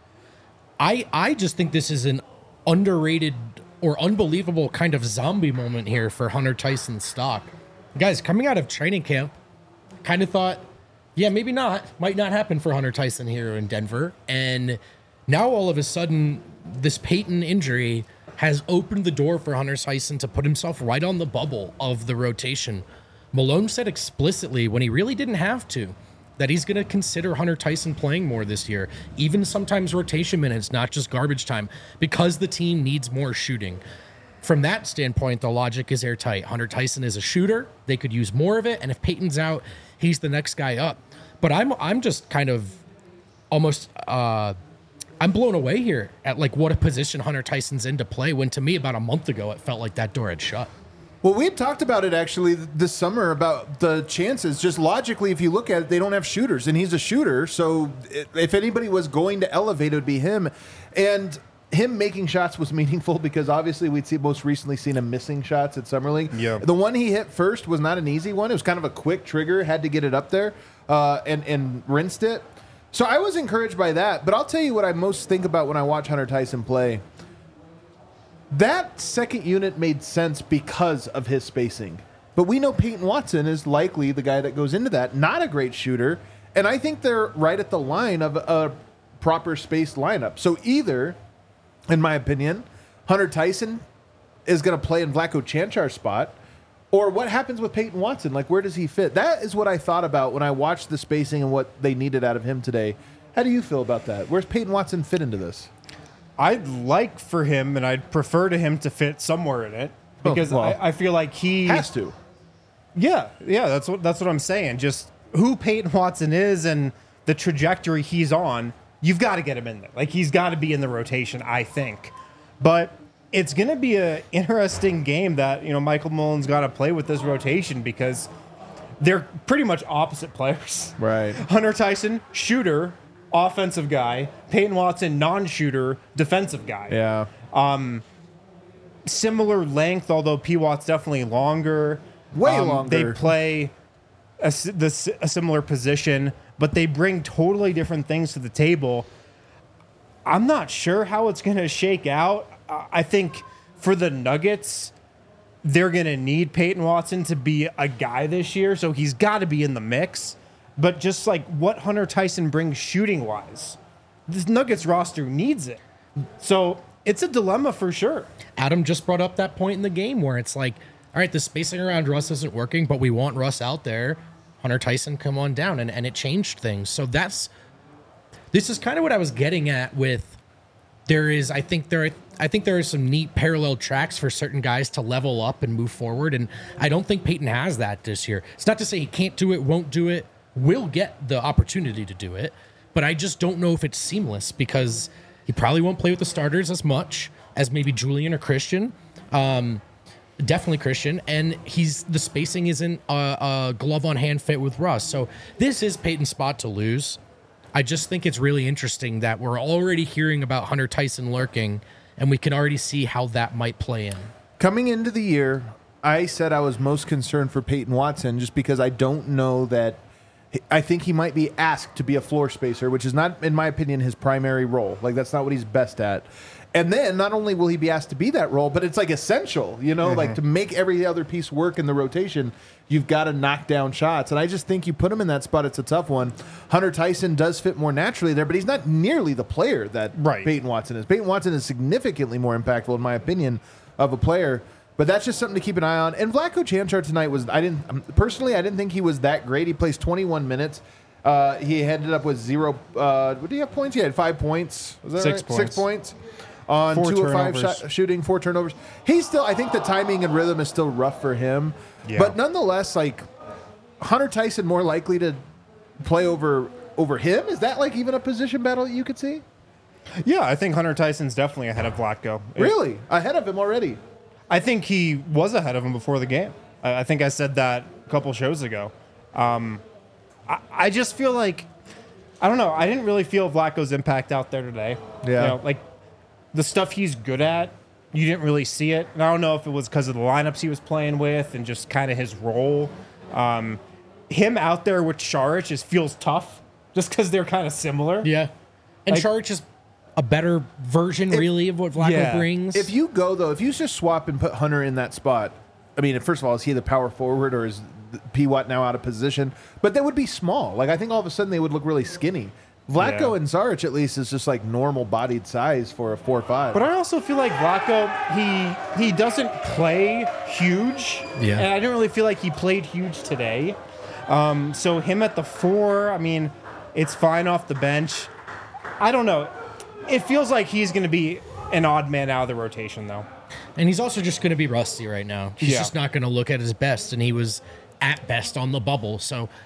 I I just think this is an underrated or unbelievable kind of zombie moment here for Hunter Tyson's stock. Guys, coming out of training camp, kind of thought, yeah, maybe not. Might not happen for Hunter Tyson here in Denver. And now all of a sudden, this Peyton injury has opened the door for Hunter Tyson to put himself right on the bubble of the rotation. Malone said explicitly, when he really didn't have to, that he's going to consider Hunter Tyson playing more this year, even sometimes rotation minutes, not just garbage time, because the team needs more shooting. From that standpoint, the logic is airtight. Hunter Tyson is a shooter. They could use more of it. And if Peyton's out, he's the next guy up. But I'm I'm just kind of almost, uh, I'm blown away here at like what a position Hunter Tyson's in to play when to me about a month ago it felt like that door had shut. Well, we had talked about it actually this summer about the chances. Just logically, if you look at it, they don't have shooters, and he's a shooter. So if anybody was going to elevate, it would be him. And him making shots was meaningful because obviously we'd see most recently seen him missing shots at Summer League. Yeah. The one he hit first was not an easy one. It was kind of a quick trigger, had to get it up there uh, and, and rinsed it. So I was encouraged by that. But I'll tell you what I most think about when I watch Hunter Tyson play. That second unit made sense because of his spacing. But we know Peyton Watson is likely the guy that goes into that. Not a great shooter. And I think they're right at the line of a proper spaced lineup. So either, in my opinion, Hunter Tyson is going to play in Vlatko Čančar's spot, or what happens with Peyton Watson? Like, where does he fit? That is what I thought about when I watched the spacing and what they needed out of him today. How do you feel about that? Where's Peyton Watson fit into this? I'd like for him, and I'd prefer to him to fit somewhere in it because Oh, well, I, I feel like he Has to. Yeah, yeah, that's what that's what I'm saying. Just who Peyton Watson is and the trajectory he's on, you've got to get him in there. Like he's got to be in the rotation, I think. But it's going to be an interesting game that you know Michael Mullen's got to play with this rotation because they're pretty much opposite players. Right. Hunter Tyson, shooter, offensive guy. Peyton Watson, non-shooter, defensive guy. Yeah. Similar length, although P. Watt's definitely longer. Way Um, longer. They play a, s- this, a similar position, but they bring totally different things to the table. I'm not sure how it's going to shake out. I I think for the Nuggets, they're going to need Peyton Watson to be a guy this year, so he's got to be in the mix. But just like what Hunter Tyson brings shooting-wise, this Nuggets roster needs it. So it's a dilemma for sure. Adam just brought up that point in the game where it's like, all right, the spacing around Russ isn't working, but we want Russ out there. Hunter Tyson, come on down. And, and it changed things. So that's, this is kind of what I was getting at with, there is, I think there, I think there are some neat parallel tracks for certain guys to level up and move forward. And I don't think Peyton has that this year. It's not to say he can't do it, won't do it, will get the opportunity to do it. But I just don't know if it's seamless because he probably won't play with the starters as much as maybe Julian or Christian. Um, Definitely Christian, and he's the spacing isn't a, a glove on hand fit with Russ. So this is Peyton's spot to lose. I just think it's really interesting that we're already hearing about Hunter Tyson lurking, and we can already see how that might play in. Coming into the year, I said I was most concerned for Peyton Watson just because I don't know that. I think he might be asked to be a floor spacer, which is not, in my opinion, his primary role. Like, that's not what he's best at. And then not only will he be asked to be that role, but it's like essential, you know, mm-hmm. like to make every other piece work in the rotation, you've got to knock down shots. And I just think you put him in that spot, it's a tough one. Hunter Tyson does fit more naturally there, but he's not nearly the player that right. Peyton Watson is. Peyton Watson is significantly more impactful, in my opinion, of a player. But that's just something to keep an eye on. And Vlatko Čančar tonight was, I didn't, personally, I didn't think he was that great. He plays twenty-one minutes. Uh, he ended up with zero, uh, what do you have points? He had five points. Was that Six right? points. Six points. On Four two of five turnovers. shot, shooting, four turnovers. He's still, I think the timing and rhythm is still rough for him. Yeah. But nonetheless, like, Hunter Tyson more likely to play over over him? Is that like even a position battle that you could see? Yeah, I think Hunter Tyson's definitely ahead of Vlatko. It- Really? Ahead of him already? I think he was ahead of him before the game. I, I think I said that a couple shows ago. Um, I, I just feel like, I don't know, I didn't really feel Vlatko's impact out there today. Yeah. You know, like, the stuff he's good at, you didn't really see it. And I don't know if it was because of the lineups he was playing with and just kind of his role. Um, him out there with Šarić just feels tough just because they're kind of similar. Yeah. And Like- Šarić is a better version, If- really, of what Vlatko Yeah. brings. If you go, though, if you just swap and put Hunter in that spot, I mean, first of all, is he the power forward or is P. Watt now out of position? But they would be small. Like, I think all of a sudden they would look really skinny. Vlatko Yeah. and Šarić, at least, is just like normal bodied size for a four five. But I also feel like Vlatko, he he doesn't play huge. Yeah. And I didn't really feel like he played huge today. Um, so him at the four, I mean, it's fine off the bench. I don't know. It feels like he's going to be an odd man out of the rotation, though. And he's also just going to be rusty right now. He's Yeah. just not going to look at his best, and he was at best on the bubble. So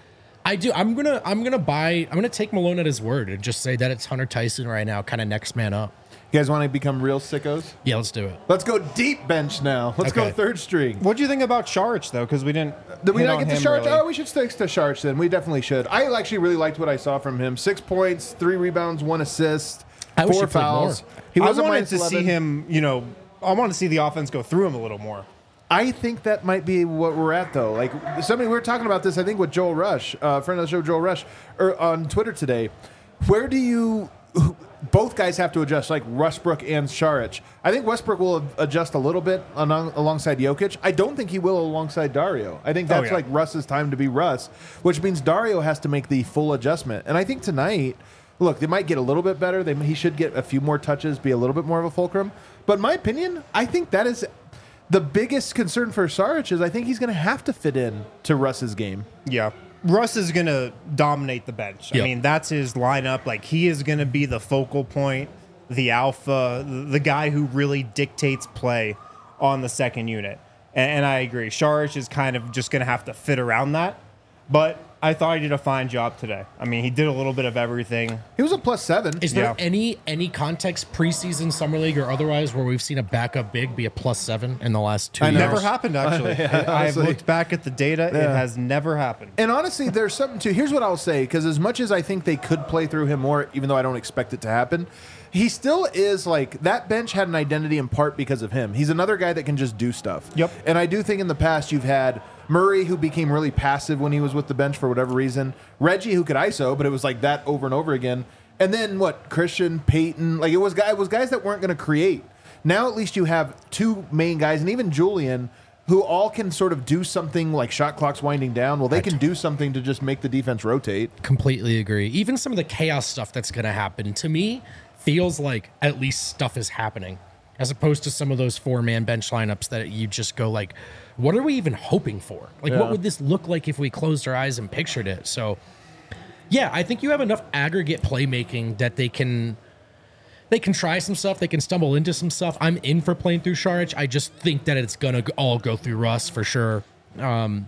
I do. I'm gonna. I'm gonna buy. I'm gonna take Malone at his word and just say that it's Hunter Tyson right now, kind of next man up. You guys want to become real sickos? Yeah, let's do it. Let's go deep bench now. Let's Okay. go third string. What do you think about Sharich, though? Because we didn't. Did we hit not on get to him Sharch? really. Oh, we should stick to Sharch then. We definitely should. I actually really liked what I saw from him. Six points, three rebounds, one assist, I wish four he played fouls. more. He I was a wanted minus to see eleven. him. You know, I want to see the offense go through him a little more. I think that might be what we're at, though. Like somebody we were talking about this, I think, with Joel Rush, uh, friend of the show, Joel Rush, or on Twitter today. Where do you? Both guys have to adjust, like Westbrook and Saric. I think Westbrook will adjust a little bit along, alongside Jokic. I don't think he will alongside Dario. I think that's Oh, yeah. like Russ's time to be Russ, which means Dario has to make the full adjustment. And I think tonight, look, they might get a little bit better. They, he should get a few more touches, be a little bit more of a fulcrum. But in my opinion, I think that is the biggest concern for Saric is I think he's going to have to fit in to Russ's game. Yeah. Russ is going to dominate the bench. Yep. I mean, that's his lineup. Like, he is going to be the focal point, the alpha, the guy who really dictates play on the second unit. And, and I agree. Saric is kind of just going to have to fit around that. But I thought he did a fine job today. I mean, he did a little bit of everything. He was a plus seven. Is there Yeah. any any context preseason, summer league, or otherwise where we've seen a backup big be a plus seven in the last two I know. years? Never happened, actually. Yeah, I, I've honestly. looked back at the data. It Yeah. has never happened. And honestly, there's something to. Here's what I'll say, because as much as I think they could play through him more, even though I don't expect it to happen, he still is like that bench had an identity in part because of him. He's another guy that can just do stuff. Yep. And I do think in the past you've had Murray, who became really passive when he was with the bench for whatever reason. Reggie, who could I S O, but it was like that over and over again. And then what? Christian, Peyton, like it was guy it was guys that weren't going to create. Now at least you have two main guys, and even Julian, who all can sort of do something like shot clocks winding down. Well, they can do something to just make the defense rotate. Completely agree. Even some of the chaos stuff that's going to happen, to me, feels like at least stuff is happening, as opposed to some of those four-man bench lineups that you just go like, what are we even hoping for? Like, Yeah. what would this look like if we closed our eyes and pictured it? So, yeah, I think you have enough aggregate playmaking that they can they can try some stuff. They can stumble into some stuff. I'm in for playing through Saric. I just think that it's going to all go through Russ for sure. Um,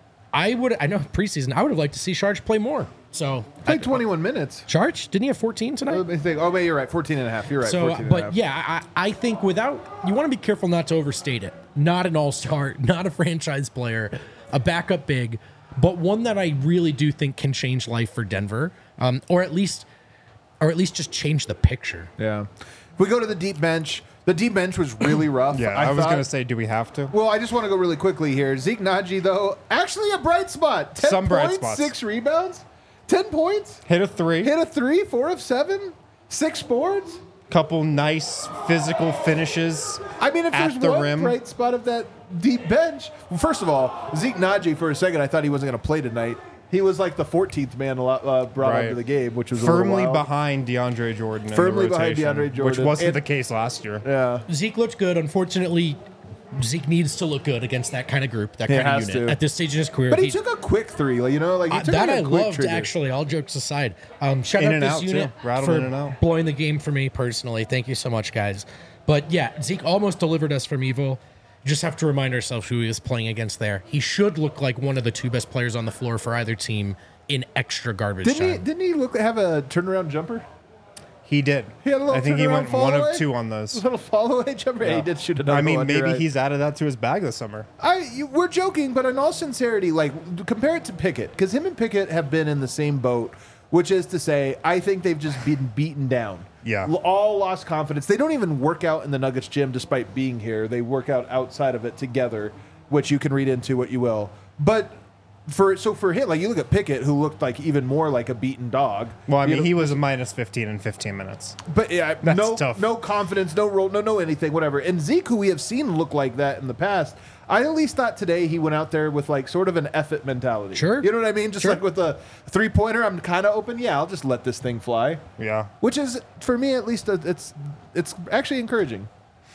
I would, I know preseason, I would have liked to see Saric play more. So, Played twenty-one minutes. Saric, didn't he have fourteen tonight? Let me think. Oh, wait, you're right. fourteen and a half. You're right. So, fourteen and a but half. yeah, I, I think without, you want to be careful not to overstate it. Not an all-star, not a franchise player, a backup big, but one that I really do think can change life for Denver, um, or at least, or at least just change the picture. Yeah. If we go to the deep bench, the deep bench was really rough. Yeah, I, was thought- going to say, do we have to? Well, I just want to go really quickly here. Zeke Naji, though, actually a bright spot. Ten Some bright points, spots. six rebounds, ten points, Hit a three. hit a three, four of seven, six boards. Couple nice physical finishes. I mean, if At there's the one rim. bright spot of that deep bench, well, first of all, Zeke Naji, for a second, I thought he wasn't going to play tonight. He was like the fourteenth man uh, brought Right. onto the game, which was a little Firmly wild. behind DeAndre Jordan. in Firmly the behind rotation, DeAndre Which Jordan. wasn't And- the case last year. Yeah. Zeke looked good. Unfortunately, Zeke needs to look good against that kind of group, that He kind of has unit to. at this stage in his career. But he, took a quick three, like, you know, like he Uh, took that like I a quick loved, trigger. actually. All jokes aside, um, shout In out and this out, too. unit Rattled for in and out. blowing the game for me personally. Thank you so much, guys. But yeah, Zeke almost delivered us from evil. Just have to remind ourselves who he is playing against there. He should look like one of the two best players on the floor for either team in extra garbage Didn't he? time. Didn't he look have a turnaround jumper? He did. He had a little I think he turnaround went fall one away? of two on those. Little follow away jumper. Yeah, he did shoot another I mean, one, you're maybe right. he's added that to his bag this summer. I you, we're joking, but in all sincerity, like compare it to Pickett, because him and Pickett have been in the same boat, which is to say, I think they've just been beaten down. Yeah. L- all lost confidence. They don't even work out in the Nuggets gym, despite being here. They work out outside of it together, which you can read into what you will. But for so for him, like you look at Pickett, who looked like even more like a beaten dog. Well, I You mean, know, he was a minus fifteen in fifteen minutes. But yeah, That's no, tough. no confidence, no role, no, no anything, whatever. And Zeke, who we have seen look like that in the past, I at least thought today he went out there with like sort of an effort mentality. Sure. You know what I mean? Just Sure. like with a three pointer, I'm kind of open. Yeah, I'll just let this thing fly. Yeah. Which is, for me at least, uh, it's it's actually encouraging.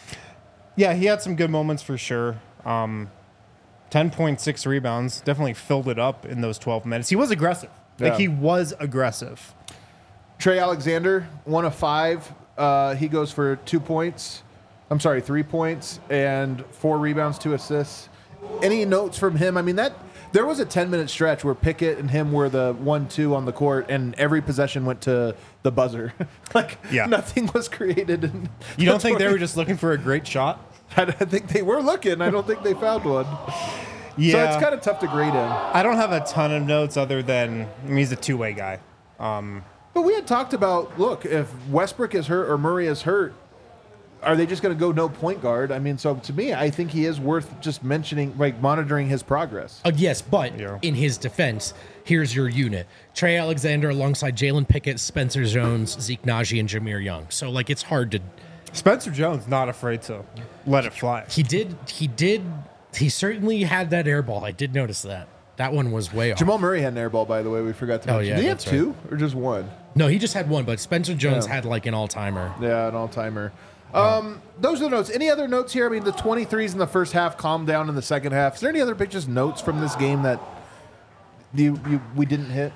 Yeah, he had some good moments for sure. Um, ten point six rebounds. Definitely filled it up in those twelve minutes. He was aggressive. Like, Yeah. he was aggressive. Trey Alexander, one of five. Uh, he goes for two points. I'm sorry, three points and four rebounds, two assists. Any notes from him? I mean, that There was a ten-minute stretch where Pickett and him were the one two on the court, and every possession went to the buzzer. like, Yeah. nothing was created. In You don't think they were just looking for a great shot? I think they were looking. I don't think they found one. Yeah. So it's kind of tough to grade him. I don't have a ton of notes other than I mean, he's a two-way guy. Um, But we had talked about, look, if Westbrook is hurt or Murray is hurt, are they just going to go no point guard? I mean, so to me, I think he is worth just mentioning, like monitoring his progress. Uh, yes, but Yeah. in his defense, here's your unit. Trey Alexander alongside Jalen Pickett, Spencer Jones, Zeke Naji, and Jameer Young. So, like, it's hard to... Spencer Jones not afraid to let it fly. He did... He did... He certainly had that air ball. I did notice that. That one was way off. Jamal Murray had an air ball, by the way. We forgot to Oh, mention. yeah, Did he have that's two or just one? No, he just had one, but Spencer Jones Yeah. had, like, an all-timer. Yeah, an all-timer. Um, those are the notes. Any other notes here? I mean, the twenty-threes in the first half calmed down in the second half. Is there any other big just notes from this game that you, you we didn't hit?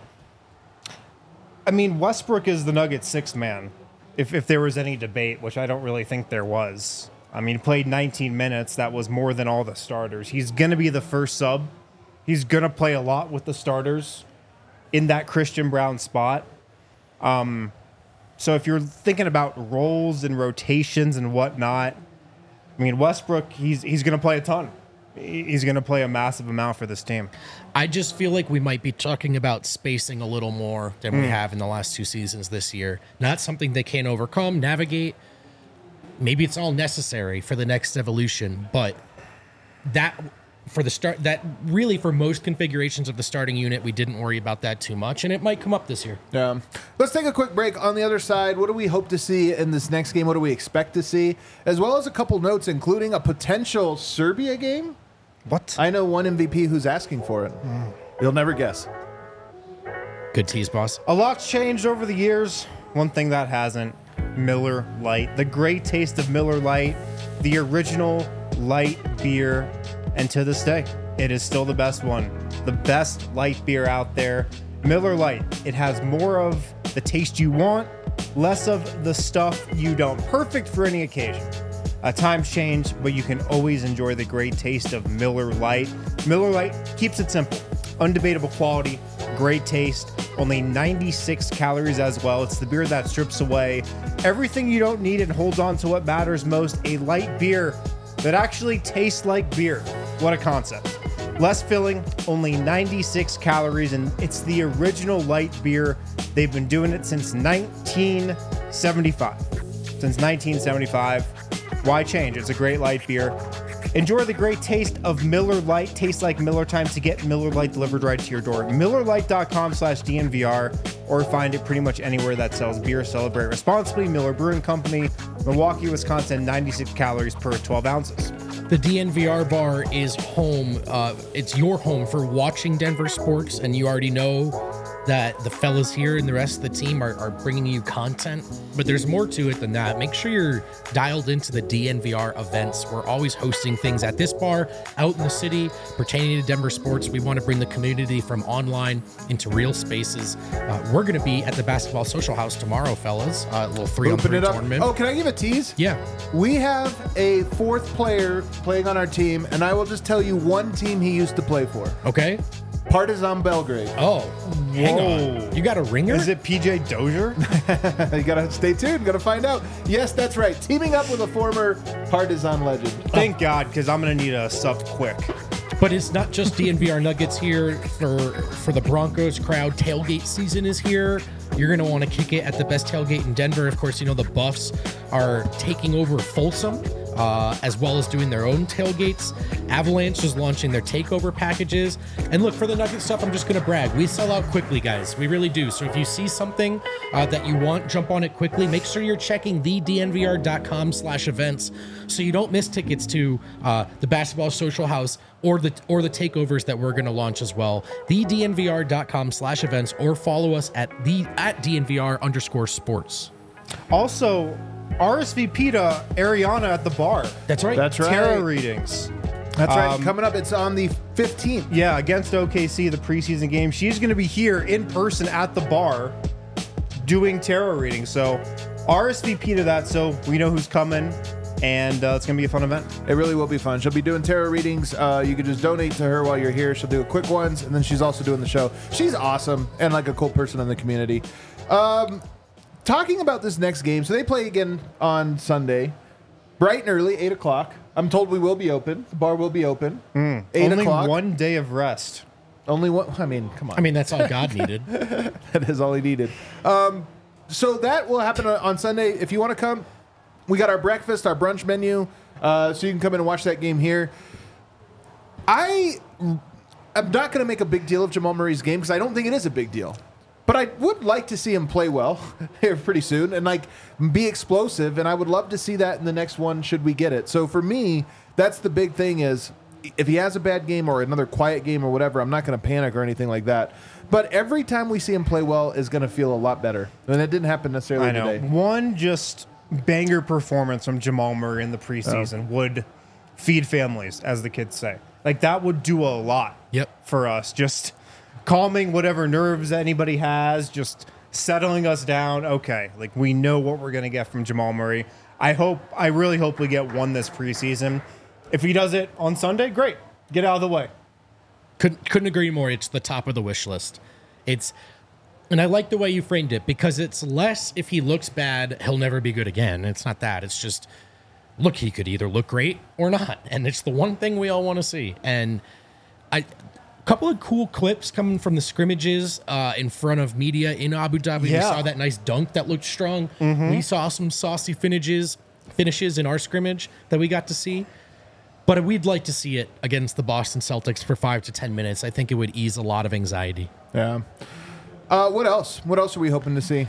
I mean, Westbrook is the Nuggets' sixth man. If if there was any debate, which I don't really think there was. I mean, he played nineteen minutes. That was more than all the starters. He's going to be the first sub. He's going to play a lot with the starters in that Christian Brown spot. Um, so if you're thinking about roles and rotations and whatnot, I mean, Westbrook, he's he's going to play a ton. He- He's going to play a massive amount for this team. I just feel like we might be talking about spacing a little more than Hmm. we have in the last two seasons this year. Not something they can't overcome, navigate. Maybe it's all necessary for the next evolution, but that for the start, that really for most configurations of the starting unit, we didn't worry about that too much, and it might come up this year. Yeah. Let's take a quick break. On the other side, what do we hope to see in this next game? What do we expect to see? As well as a couple notes, including a potential Serbia game. What? I know one M V P who's asking for it. You'll never guess. Good tease, boss. A lot's changed over the years. One thing that hasn't, Miller Lite. The great taste of Miller Lite, the original light beer, and to this day, it is still the best one. The best light beer out there. Miller Lite. It has more of the taste you want, less of the stuff you don't. Perfect for any occasion. Uh, times change, but you can always enjoy the great taste of Miller Lite. Miller Lite keeps it simple. Undebatable quality, great taste, only ninety-six calories as well. It's the beer that strips away everything you don't need and holds on to what matters most. A light beer that actually tastes like beer. What a concept. Less filling, only ninety-six calories, and it's the original light beer. They've been doing it since nineteen seventy-five. Since nineteen seventy-five. Why change? It's a great light beer. Enjoy the great taste of Miller Lite. Tastes like Miller time to get Miller Lite delivered right to your door. MillerLite.com slash DNVR or find it pretty much anywhere that sells beer. Celebrate responsibly. Miller Brewing Company, Milwaukee, Wisconsin, ninety-six calories per twelve ounces. The D N V R bar is home. Uh, it's your home for watching Denver sports, and you already know that the fellas here and the rest of the team are, are bringing you content. But there's more to it than that. Make sure you're dialed into the D N V R events. We're always hosting things at this bar, out in the city, pertaining to Denver sports. We want to bring the community from online into real spaces. Uh, we're going to be at the Basketball Social House tomorrow, fellas. Uh, a little three on Open three it up. tournament. Oh, can I give a tease? Yeah. We have a fourth player playing on our team, and I will just tell you one team he used to play for. Okay. Partizan Belgrade. Oh, hang Whoa. on. You got a ringer? Is it P J Dozier? You gotta stay tuned, gotta find out. Yes, that's right. Teaming up with a former Partizan legend. Thank God, because I'm going to need a sub quick. But it's not just D N V R Nuggets here for for the Broncos crowd. Tailgate season is here. You're going to want to kick it at the best tailgate in Denver. Of course, you know the Buffs are taking over Folsom, uh, as well as doing their own tailgates. Avalanche is launching their takeover packages. And look, for the Nugget stuff, I'm just going to brag. We sell out quickly, guys. We really do. So if you see something uh, that you want, jump on it quickly. Make sure you're checking the D N V R dot com slash events so you don't miss tickets to uh, the Basketball Social House or the or the takeovers that we're going to launch as well. the D N V R dot com slash events or follow us at the at D N V R underscore sports. Also, R S V P to Ariana at the bar. That's right. That's right. Tarot readings. That's right. Um, Coming up, it's on the fifteenth. Yeah, against O K C, the preseason game. She's going to be here in person at the bar doing tarot readings. So R S V P to that so we know who's coming. and uh, it's going to be a fun event. It really will be fun. She'll be doing tarot readings. Uh, you can just donate to her while you're here. She'll do quick ones, and then she's also doing the show. She's awesome and like a cool person in the community. Um, talking about this next game, so they play again on Sunday, bright and early, eight o'clock. I'm told we will be open. The bar will be open. Mm, eight only o'clock. one day of rest. Only one. I mean, come on. I mean, that's all God needed. That is all he needed. Um, so that will happen on Sunday. If you want to come, we got our breakfast, our brunch menu, uh, so you can come in and watch that game here. I am not going to make a big deal of Jamal Murray's game because I don't think it is a big deal. But I would like to see him play well here pretty soon and like be explosive. And I would love to see that in the next one should we get it. So for me, that's the big thing is if he has a bad game or another quiet game or whatever, I'm not going to panic or anything like that. But every time we see him play well is going to feel a lot better. And it didn't happen necessarily I know. today. One just banger performance from Jamal Murray in the preseason Oh. would feed families, as the kids say. Like that would do a lot Yep. for us. Just calming whatever nerves anybody has, just settling us down. Okay, like we know what we're going to get from Jamal Murray. I hope, I really hope we get one this preseason. If he does it on Sunday, great. Get out of the way. Couldn't couldn't agree more. It's the top of the wish list. It's, and I like the way you framed it because it's less if he looks bad, he'll never be good again. It's not that. It's just, look, he could either look great or not, and it's the one thing we all want to see. And I. Couple of cool clips coming from the scrimmages uh, in front of media in Abu Dhabi. Yeah. We saw that nice dunk that looked strong. Mm-hmm. We saw some saucy finishes, finishes in our scrimmage that we got to see. But we'd like to see it against the Boston Celtics for five to ten minutes. I think it would ease a lot of anxiety. Yeah. Uh, what else? What else are we hoping to see?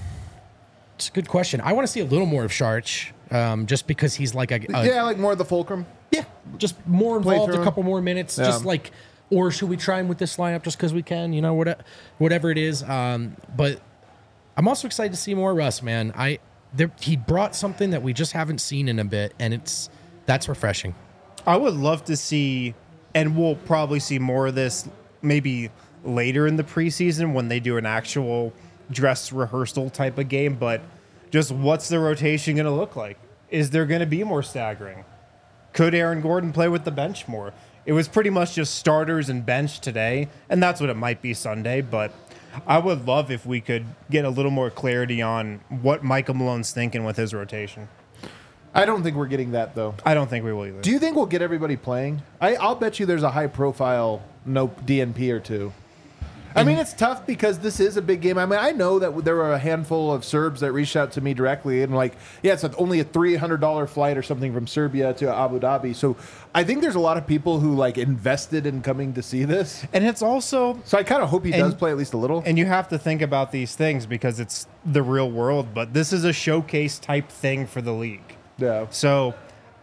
It's a good question. I want to see a little more of Sharch, um, just because he's like a, a yeah, like more of the fulcrum. yeah, just more involved, through. a couple more minutes, Yeah. just like. Or should we try him with this lineup just because we can? You know, whatever, whatever it is. Um, but I'm also excited to see more Russ, man. I there, he brought something that we just haven't seen in a bit, and it's that's refreshing. I would love to see, and we'll probably see more of this maybe later in the preseason when they do an actual dress rehearsal type of game. But just what's the rotation going to look like? Is there going to be more staggering? Could Aaron Gordon play with the bench more? It was pretty much just starters and bench today, and that's what it might be Sunday. But I would love if we could get a little more clarity on what Michael Malone's thinking with his rotation. I don't think we're getting that, though. I don't think we will either. Do you think we'll get everybody playing? I, I'll bet you there's a high-profile no D N P or two. I mean, it's tough because this is a big game. I mean, I know that there were a handful of Serbs that reached out to me directly and like, yeah, it's only a three hundred dollars flight or something from Serbia to Abu Dhabi. So I think there's a lot of people who like invested in coming to see this. And it's also... So I kind of hope he And- does play at least a little. And you have to think about these things because it's the real world, but this is a showcase type thing for the league. Yeah. So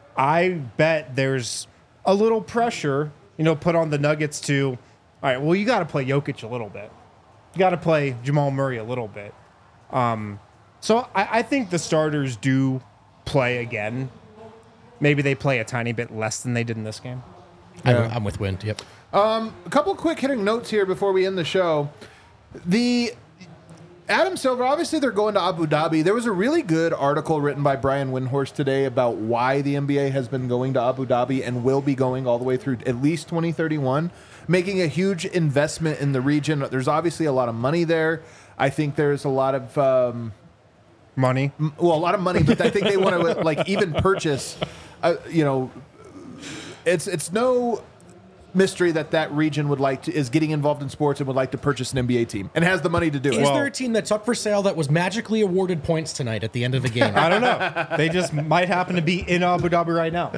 I bet there's a little pressure, you know, put on the Nuggets to, all right, well, you got to play Jokic a little bit. You got to play Jamal Murray a little bit. Um, so I, I think the starters do play again. Maybe they play a tiny bit less than they did in this game. Yeah. I'm, I'm with Wind. Yep. A couple quick hitting notes here before we end the show. The Adam Silver, obviously they're going to Abu Dhabi. There was a really good article written by Brian Windhorst today about why the N B A has been going to Abu Dhabi and will be going all the way through at least twenty thirty-one, making a huge investment in the region. There's obviously a lot of money there. I think there's a lot of... Um, Money. well, a lot of money, but I think they want to like even purchase. Uh, you know, it's it's no mystery that that region would like to is getting involved in sports and would like to purchase an N B A team and has the money to do Is it. Well- there a team that's up for sale that was magically awarded points tonight at the end of the game? I don't know. They just might happen to be in Abu Dhabi right now.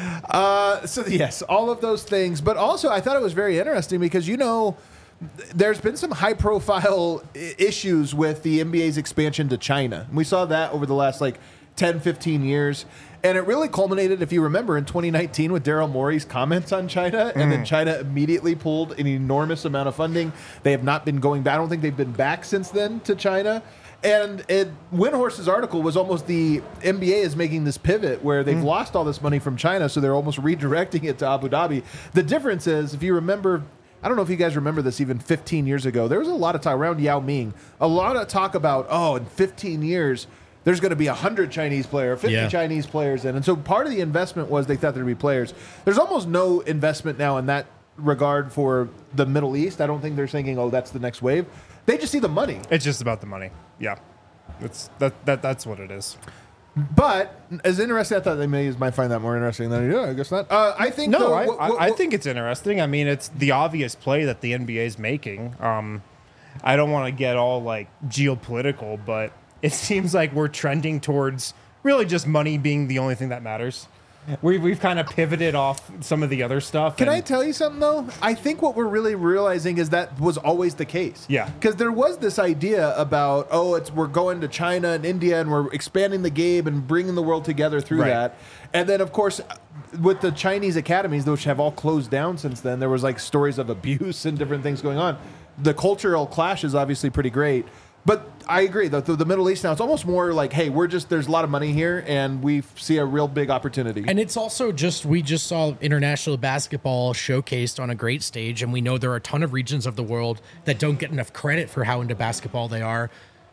Uh, so yes, all of those things, but also I thought it was very interesting because you know. There's been some high-profile I- issues with the N B A's expansion to China. We saw that over the last like ten, fifteen years. And it really culminated, if you remember, in twenty nineteen with Daryl Morey's comments on China. And then China immediately pulled an enormous amount of funding. They have not been going back. I don't think they've been back since then to China. And it, Windhorst's article was almost the N B A is making this pivot where they've lost all this money from China, so they're almost redirecting it to Abu Dhabi. The difference is, if you remember... I don't know if you guys remember this even fifteen years ago. There was a lot of talk around Yao Ming, a lot of talk about, oh, in fifteen years, there's going to be one hundred Chinese players, fifty Yeah. Chinese players in. And so part of the investment was they thought there'd be players. There's almost no investment now in that regard for the Middle East. I don't think they're thinking, oh, that's the next wave. They just see the money. It's just about the money. Yeah. It's that, that that's what it is. But as interesting, I thought they may might find that more interesting than I do. I guess not. Uh, I think No, though, I, wh- I, wh- I wh- think it's interesting. I mean, it's the obvious play that the N B A is making. Um, I don't want to get all like geopolitical, but it seems like we're trending towards really just money being the only thing that matters. We've, we've kind of pivoted off some of the other stuff. Can and- I tell you something though? I think what we're really realizing is that was always the case. Yeah. Because there was this idea about, oh, it's we're going to China and India and we're expanding the game and bringing the world together through Right. that. And then of course, with the Chinese academies, which have all closed down since then, there was like stories of abuse and different things going on. The cultural clash is obviously pretty great. But I agree. The, the, the Middle East now, it's almost more like, hey, we're just, there's a lot of money here and we see a real big opportunity. And it's also just, we just saw international basketball showcased on a great stage, and we know there are a ton of regions of the world that don't get enough credit for how into basketball they are.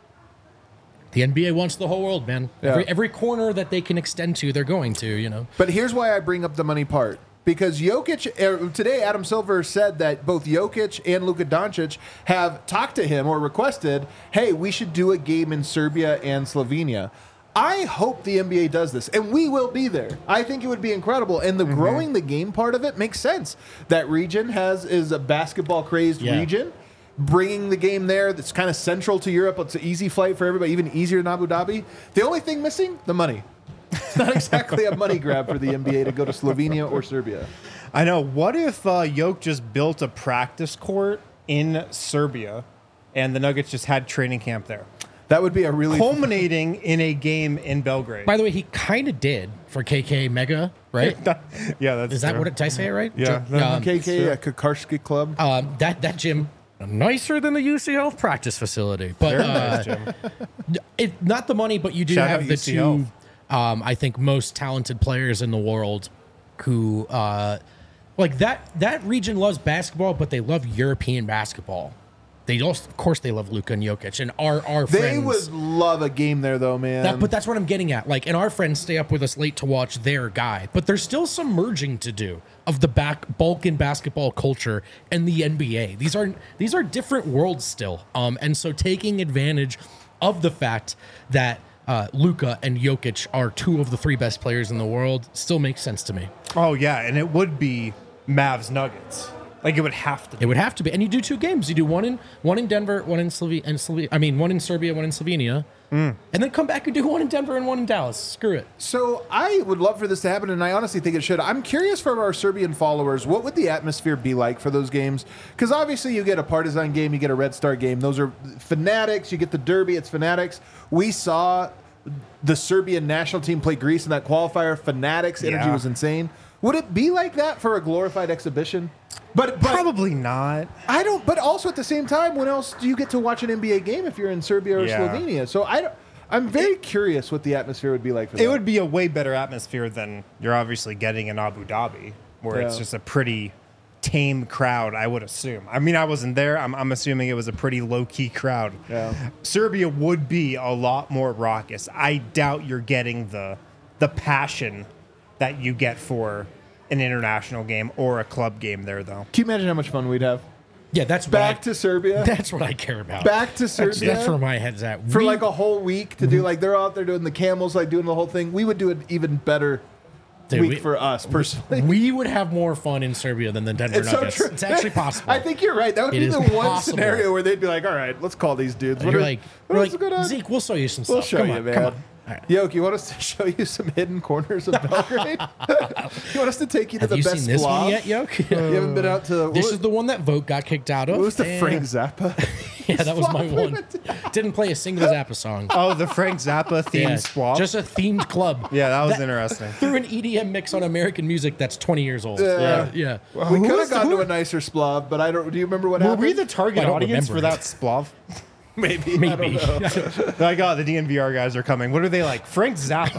The N B A wants the whole world, man. Yeah. Every, every corner that they can extend to, they're going to, you know. But here's why I bring up the money part. Because Jokic, er, today Adam Silver said that both Jokic and Luka Doncic have talked to him or requested, hey, we should do a game in Serbia and Slovenia. I hope the N B A does this, and we will be there. I think it would be incredible. And the growing the game part of it makes sense. That region has is a basketball crazed Yeah. region. Bringing the game there that's kind of central to Europe. It's an easy flight for everybody, even easier than Abu Dhabi. The only thing missing, the money. It's not exactly a money grab for the N B A to go to Slovenia or Serbia. I know. What if uh, Yoke just built a practice court in Serbia and the Nuggets just had training camp there? That would be a really Culminating in a game in Belgrade. By the way, he kind of did for K K Mega, right? yeah, that's Is that true. what it, did I say it right? Yeah. Ju- um, K K a Kakarski club. um, that, that gym, nicer than the U C L practice facility. But Very uh, nice, Jim. it, not the money, but you do Shout have out the U C two, L. um, I think, most talented players in the world who, uh, like that, that region loves basketball, but they love European basketball. They also, of course, they love Luka and Jokic, and our our They friends. would love a game there, though, man. That, but that's what I'm getting at. Like, and our friends stay up with us late to watch their guy. But there's still some merging to do of the back Balkan basketball culture and the N B A. These are these are different worlds still. Um, and so taking advantage of the fact that uh, Luka and Jokic are two of the three best players in the world still makes sense to me. Oh, yeah, and it would be Mavs Nuggets. Like, it would have to be. It would have to be. And you do two games. You do one in one in Denver, one in Slovenia, and Slove- I mean, one in Serbia, one in Slovenia. Mm. And then come back and do one in Denver and one in Dallas. Screw it. So I would love for this to happen, and I honestly think it should. I'm curious from our Serbian followers, what would the atmosphere be like for those games? Because obviously you get a Partizan game, you get a Red Star game. Those are fanatics. You get the derby, it's fanatics. We saw the Serbian national team play Greece in that qualifier. Fanatics, energy Yeah. was insane. Would it be like that for a glorified exhibition? But, but Probably not. I don't. But also at the same time, when else do you get to watch an N B A game if you're in Serbia or Yeah. Slovenia? So I, don't- I'm very curious what the atmosphere would be like for that. It would be a way better atmosphere than you're obviously getting in Abu Dhabi, where it's Yeah. just a pretty tame crowd, I would assume. I mean, I wasn't there. I'm, I'm assuming it was a pretty low-key crowd. Yeah. Serbia would be a lot more raucous. I doubt you're getting the the passion that you get for an international game or a club game there, though. Can you imagine how much fun we'd have? Yeah, that's Back what I, to Serbia. That's what I care about. Back to That's, Serbia. that's where my head's at. for We- like a whole week to do like they're out there doing the camels, like doing the whole thing. We would do an even better Dude, week we- for us personally. we would have more fun in Serbia than the Denver It's so Nuggets. true. It's actually possible. I think you're right. That would It be is the one possible. scenario where they'd be like, "All right, let's call these dudes." What you're are- like, what you're else is going like on? Zeke, we'll show you some We'll stuff. show come you, on, man. come on. All right. Yoke, you want us to show you some hidden corners of Belgrade? you want us to take you to Have the you best seen this splav? one yet, Yoke? You haven't been out to. This what, is the one that Vote got kicked out of. what was the and- Frank Zappa? Yeah, that was my Splav one. went Didn't play a single Zappa song. Oh, the Frank Zappa themed Yeah, swap. just a themed club. yeah, that was interesting. Through an E D M mix on American music that's twenty years old. Yeah. Yeah. yeah. we Who could have was the- gone who- to a nicer splav, but I don't. Do you remember what Were happened? we the target I don't audience for remember that splav? Maybe. Maybe. Like, oh, the D N V R guys are coming. What are they like? Frank Zappa.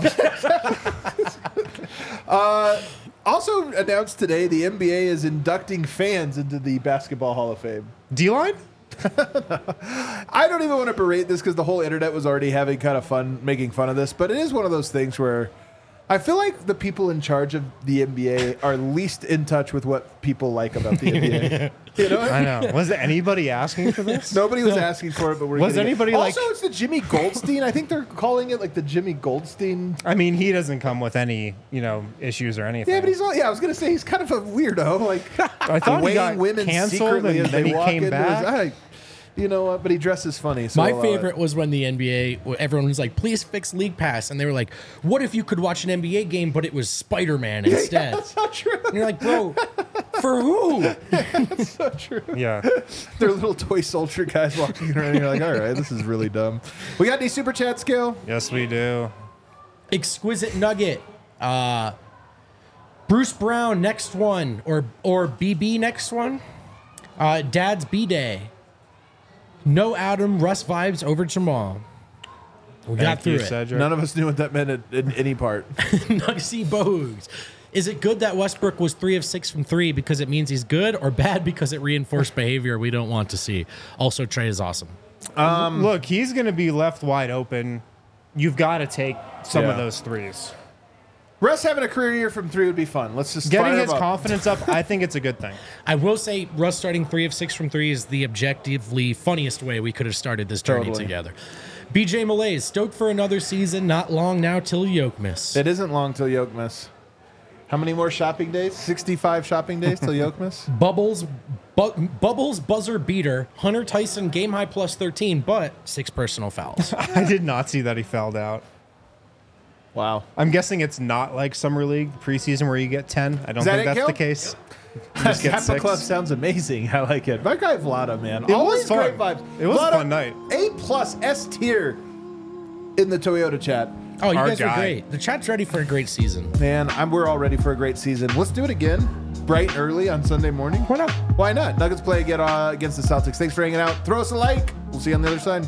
Also announced today, the N B A is inducting fans into the Basketball Hall of Fame. D-line? I don't even want to berate this because the whole internet was already having kind of fun making fun of this, but it is one of those things where I feel like the people in charge of the N B A are least in touch with what people like about the N B A. You know what I I mean? know. Was anybody asking for this? Nobody was asking for it, but we're Was getting it. anybody like- Also, it's the Jimmy Goldstein. I think they're calling it like the Jimmy Goldstein. I mean, he doesn't come with any, you know, issues or anything. Yeah, but he's all, yeah. I was gonna say he's kind of a weirdo, like I thought he weighing got women canceled secretly and as then they he walk came into back. his. I, you know what? But he dresses funny. So My I'll allow it. favorite was when the N B A, everyone was like, please fix League Pass. And they were like, what if you could watch an N B A game, but it was Spider-Man instead? That's not true. And you're like, bro, for who? That's so true. Yeah. They're little toy soldier guys walking around. You're like, all right, this is really dumb. We got any super chat skill? Yes, we do. Exquisite Nugget. Uh, Bruce Brown, next one. Or, or B B, next one. Uh, Dad's B-Day. No Adam, Russ vibes over Jamal. We got Thank through you, it. Cedric. None of us knew what that meant in, in any part. Nugsy Bogues. Is it good that Westbrook was three of six from three because it means he's good, or bad because it reinforced behavior we don't want to see? Also, Trey is awesome. Um, Look, he's going to be left wide open. You've got to take some Yeah. of those threes. Russ having a career year from three would be fun. Let's just Getting fire his him up. confidence up, I think it's a good thing. I will say Russ starting three of six from three is the objectively funniest way we could have started this journey Totally. together. B J Malays, stoked for another season, not long now till Yokemas. It isn't long till Yokemas. How many more shopping days? sixty-five shopping days till Yokemas? Bubbles, bu- Bubbles buzzer beater, Hunter Tyson game high plus thirteen, but six personal fouls. I did not see that he fouled out. Wow. I'm guessing it's not like Summer League preseason where you get ten. I don't Is that think it, that's Gil? the case. You just get Kappa six. Club sounds amazing. I like it. My guy Vlada, man. It was Always fun. great vibes. It was a Vlada, fun night. A plus S tier in the Toyota chat. Oh, you Our guys guy. were great. The chat's ready for a great season. Man, I'm, we're all ready for a great season. Let's do it again, bright and early on Sunday morning. Why not? Why not? Nuggets play again uh, against the Celtics. Thanks for hanging out. Throw us a like. We'll see you on the other side.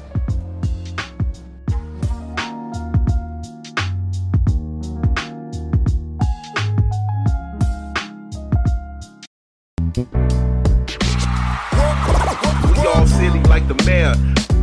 We all silly like the mayor.